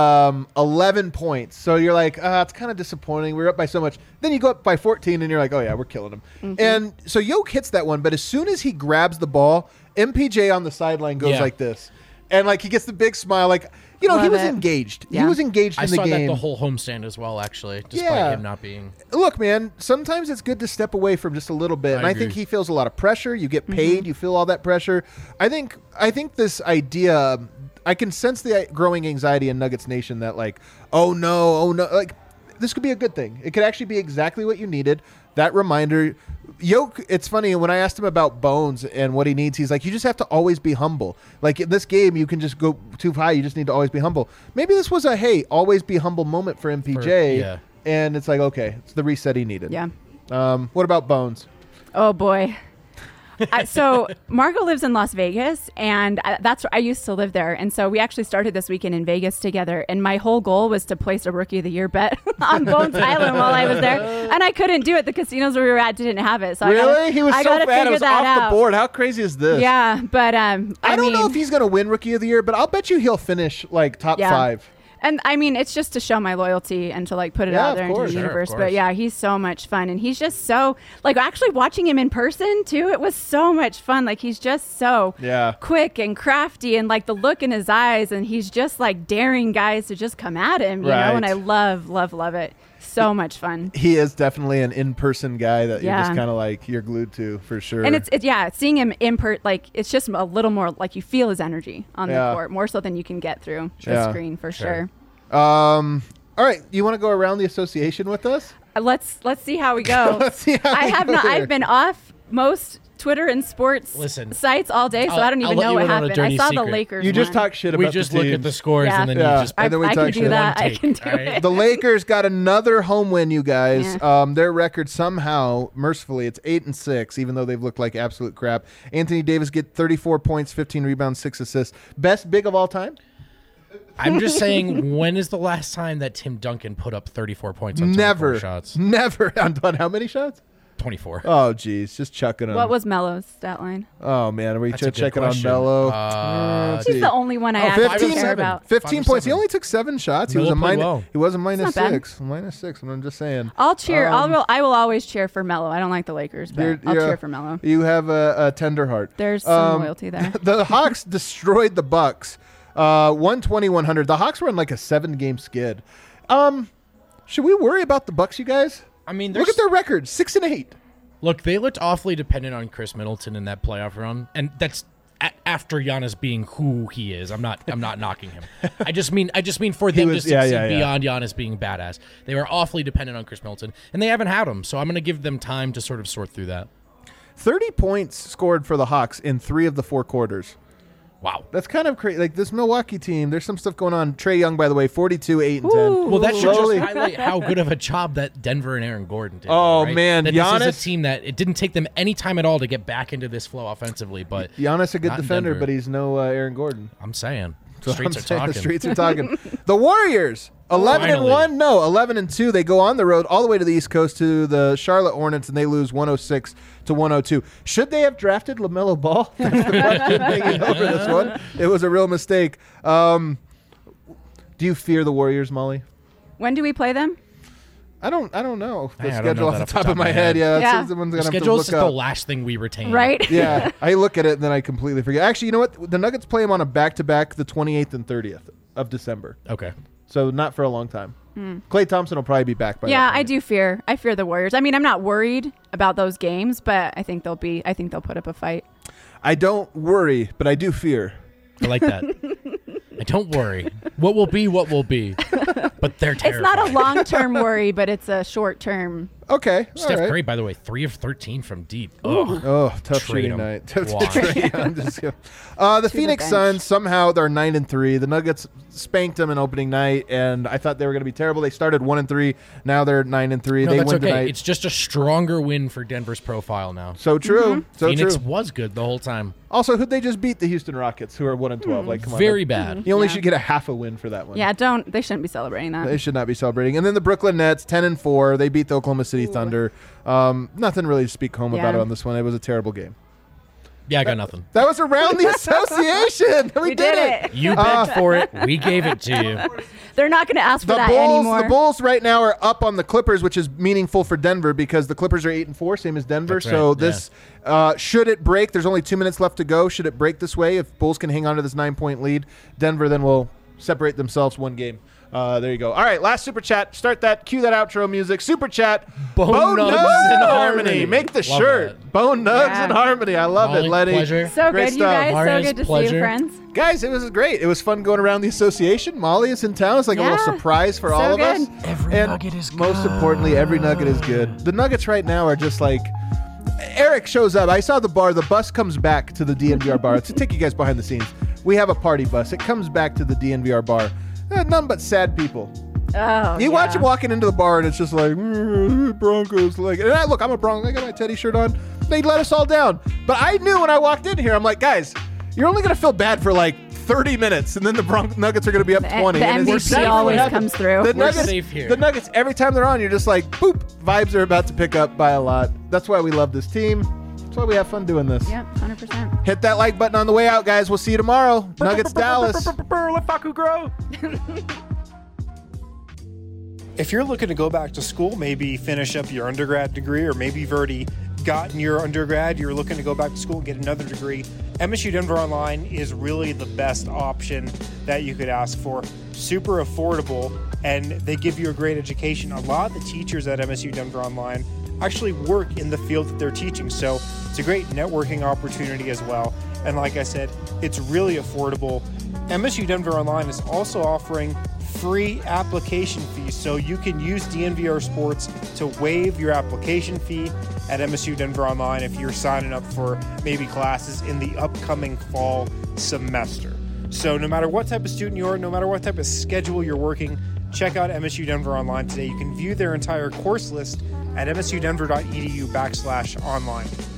11 points. So you're like, it's kind of disappointing. We're up by so much. Then you go up by 14 and you're like, oh yeah, we're killing them. Mm-hmm. And so Yoke hits that one, but as soon as he grabs the ball, MPJ on the sideline goes Yeah. like this, and like he gets the big smile, like he Love was it. engaged. He Yeah. was engaged I in the saw game. that the whole homestand as well, actually, despite Yeah. him not being. Look, man, sometimes it's good to step away from just a little bit. And I think agree. he feels a lot of pressure. You get Mm-hmm. paid, you feel all that pressure. I think this idea, I can sense the growing anxiety in Nuggets Nation that like, oh no, like this could be a good thing. It could actually be exactly what you needed. That reminder. Yoke, it's funny, when I asked him about Bones and what he needs, he's like, you just have to always be humble. Like in this game, you can just go too high. You just need to always be humble. Maybe this was a, hey, always be humble moment for MPJ. Yeah. And it's like, okay, it's the reset he needed. Yeah. What about Bones? Oh boy. So Margot lives in Las Vegas, and that's where I used to live there. And so we actually started this weekend in Vegas together. And my whole goal was to place a Rookie of the Year bet on Bones Island while I was there, and I couldn't do it. The casinos where we were at didn't have it. So Really? He was I so gotta bad. It figure was that off out. the board. How crazy is this? Yeah, but I don't know if he's going to win Rookie of the Year, but I'll bet you he'll finish like top Yeah. 5. And I mean, it's just to show my loyalty and to like put it Yeah, out of there into course. the Sure, of universe. course. But yeah, he's so much fun, and he's just so like actually watching him in person too. It was so much fun. Like he's just so quick and crafty, and like the look in his eyes, and he's just like daring guys to just come at him, you know. And I love it. So much fun. He is definitely an in-person guy that you're Yeah. just kind of like you're glued to for sure. And it's seeing him like it's just a little more like you feel his energy on the court more so than you can get through the screen for sure. All right, you want to go around the association with us? Let's see how we go. Let's see how I we have go not. here. I've been off most Twitter and sports sites all day, so I don't even let know you what in on a happened. I dirty saw the secret. Lakers. You just won. talk shit We about just the look at teams. the scores Yeah. and then Yeah. you just. And then we I talk can shit. do that. One I take, can do all right? it. The Lakers got another home win, you guys. Yeah. Their record somehow, mercifully, it's 8-6, even though they've looked like absolute crap. Anthony Davis get 34 points, 15 rebounds, 6 assists. Best big of all time? I'm just saying, when is the last time that Tim Duncan put up 34 points on 24 Never. shots? Never. On how many shots? 24. Oh, geez. Just chucking them. What was Melo's stat line? Oh, man. Are we That's a good checking on question. Melo? Let's He's see. the only one I Oh, actually 15, care about. 15 5 or points. He 7. only took 7 shots. He Melo was a played minus. well. He was a minus not bad. 6. Minus 6. I'm just saying. I'll cheer. I will always cheer for Melo. I don't like the Lakers, but I'll cheer for Melo. You have a tender heart. There's some loyalty there. The Hawks destroyed the Bucks. 120-100. The Hawks were on like a 7-game skid. Should we worry about the Bucks, you guys? I mean, Look at their record, 6-8. Look, they looked awfully dependent on Chris Middleton in that playoff run, and that's after Giannis being who he is. I'm not knocking him. I just mean for them to succeed beyond Giannis being badass. They were awfully dependent on Chris Middleton, and they haven't had him. So I'm going to give them time to sort of sort through that. 30 points scored for the Hawks in 3 of the 4 quarters. Wow. That's kind of crazy. Like this Milwaukee team, there's some stuff going on. Trae Young, by the way, 42, 8, and 10. Well, that should Slowly. just highlight how good of a job that Denver and Aaron Gordon did. Oh, right? man, that Giannis- this is a team that it didn't take them any time at all to get back into this flow offensively. But Giannis a good not in defender, Denver. but he's no Aaron Gordon. I'm saying So streets I'm are saying talking. The streets are talking. The Warriors, 11-1. Finally. No, 11-2. They go on the road all the way to the East Coast to the Charlotte Hornets, and they lose 106-102. Should they have drafted LaMelo Ball? That's the question hanging over this one. It was a real mistake. Do you fear the Warriors, Molly? When do we play them? I don't know the I don't schedule know off that the top of my head. Yeah, Yeah. someone's The gonna have to schedule is look just the up. last thing we retain. Right? Yeah, I look at it and then I completely forget. Actually, you know what? The Nuggets play them on a back-to-back, the 28th and 30th of December. Okay. So not for a long time. Klay Thompson will probably be back by Yeah, that I point. do fear. I fear the Warriors. I mean, I'm not worried about those games, but I think they'll put up a fight. I don't worry, but I do fear. I like that. And don't worry. What will be, but they're terrible. It's not a long-term worry, but it's a short-term. Okay. Steph all right. Curry, by the way, 3 of 13 from deep. Oh, tough Trade shooting him. night. Tough Why? trade. I'm just kidding. The Phoenix bench. Suns, somehow they're 9-3. The Nuggets spanked them in opening night, and I thought they were going to be terrible. They started 1-3. Now they're 9-3. No, They that's win okay. tonight. It's just a stronger win for Denver's profile now. So true. So Phoenix true. was good the whole time. Also, who'd they just beat? The Houston Rockets, who are 1-12. Like, come on. Very bad. You only Yeah. should get a half a win for that one. Yeah, they shouldn't be celebrating that. They should not be celebrating. And then the Brooklyn Nets, 10-4. They beat the Oklahoma City Thunder. Nothing really to speak home about Yeah. it on this one. It was a terrible game. Yeah, I got nothing. That was around the association. We did it. You begged for it. We gave it to you. They're not going to ask for The that Bulls, anymore. the Bulls right now are up on the Clippers, which is meaningful for Denver because the Clippers are 8-4, same as Denver. That's So right, this, should it break? There's only 2 minutes left to go. Should it break this way? If Bulls can hang on to this 9-point lead, Denver then will separate themselves one game. There you go. All right, last super chat. Start that. Cue that outro music. Super chat. Bone Nugs and in Harmony. Harmony. Make the Love shirt. that. Bone Nugs Yeah. and Harmony. I love Molly, it, Letty. pleasure. So Great good, you stuff. guys. Marius, So good to see pleasure. you, friends. Guys, it was great. It was fun going around the association. Molly is in town. It's like a little Yeah. surprise for So all of good. us. Every And nugget is most good. importantly, every nugget is good. The Nuggets right now are just like Eric shows up. I saw the bar. The bus comes back to the DNVR bar. To take you guys behind the scenes, we have a party bus. It comes back to the DNVR bar. None but sad people. Oh, You watch him walking into the bar, and it's just like Broncos. Like, and look, I'm a Bronco. I got my Teddy shirt on. They let us all down. But I knew when I walked in here, I'm like, guys, you're only gonna feel bad for like 30 minutes, and then the Nuggets are gonna be up 20. The and it's MVP exactly what always happens. comes through. The We're Nuggets, safe here. The Nuggets, every time they're on, you're just like, boop. Vibes are about to pick up by a lot. That's why we love this team. That's why we have fun doing this. Yep, 100%. Hit that like button on the way out, guys. We'll see you tomorrow. Nuggets Dallas. Let Faku grow. if you're looking to go back to school, maybe finish up your undergrad degree, or maybe you've already gotten your undergrad, you're looking to go back to school and get another degree, MSU Denver Online is really the best option that you could ask for. Super affordable, and they give you a great education. A lot of the teachers at MSU Denver Online actually work in the field that they're teaching, so it's a great networking opportunity as well. And like I said, it's really affordable. MSU Denver Online is also offering free application fees, so you can use DNVR Sports to waive your application fee at MSU Denver Online if you're signing up for maybe classes in the upcoming fall semester. So no matter what type of student you are, no matter what type of schedule you're working, check out MSU Denver Online today. You can view their entire course list at msudenver.edu/online.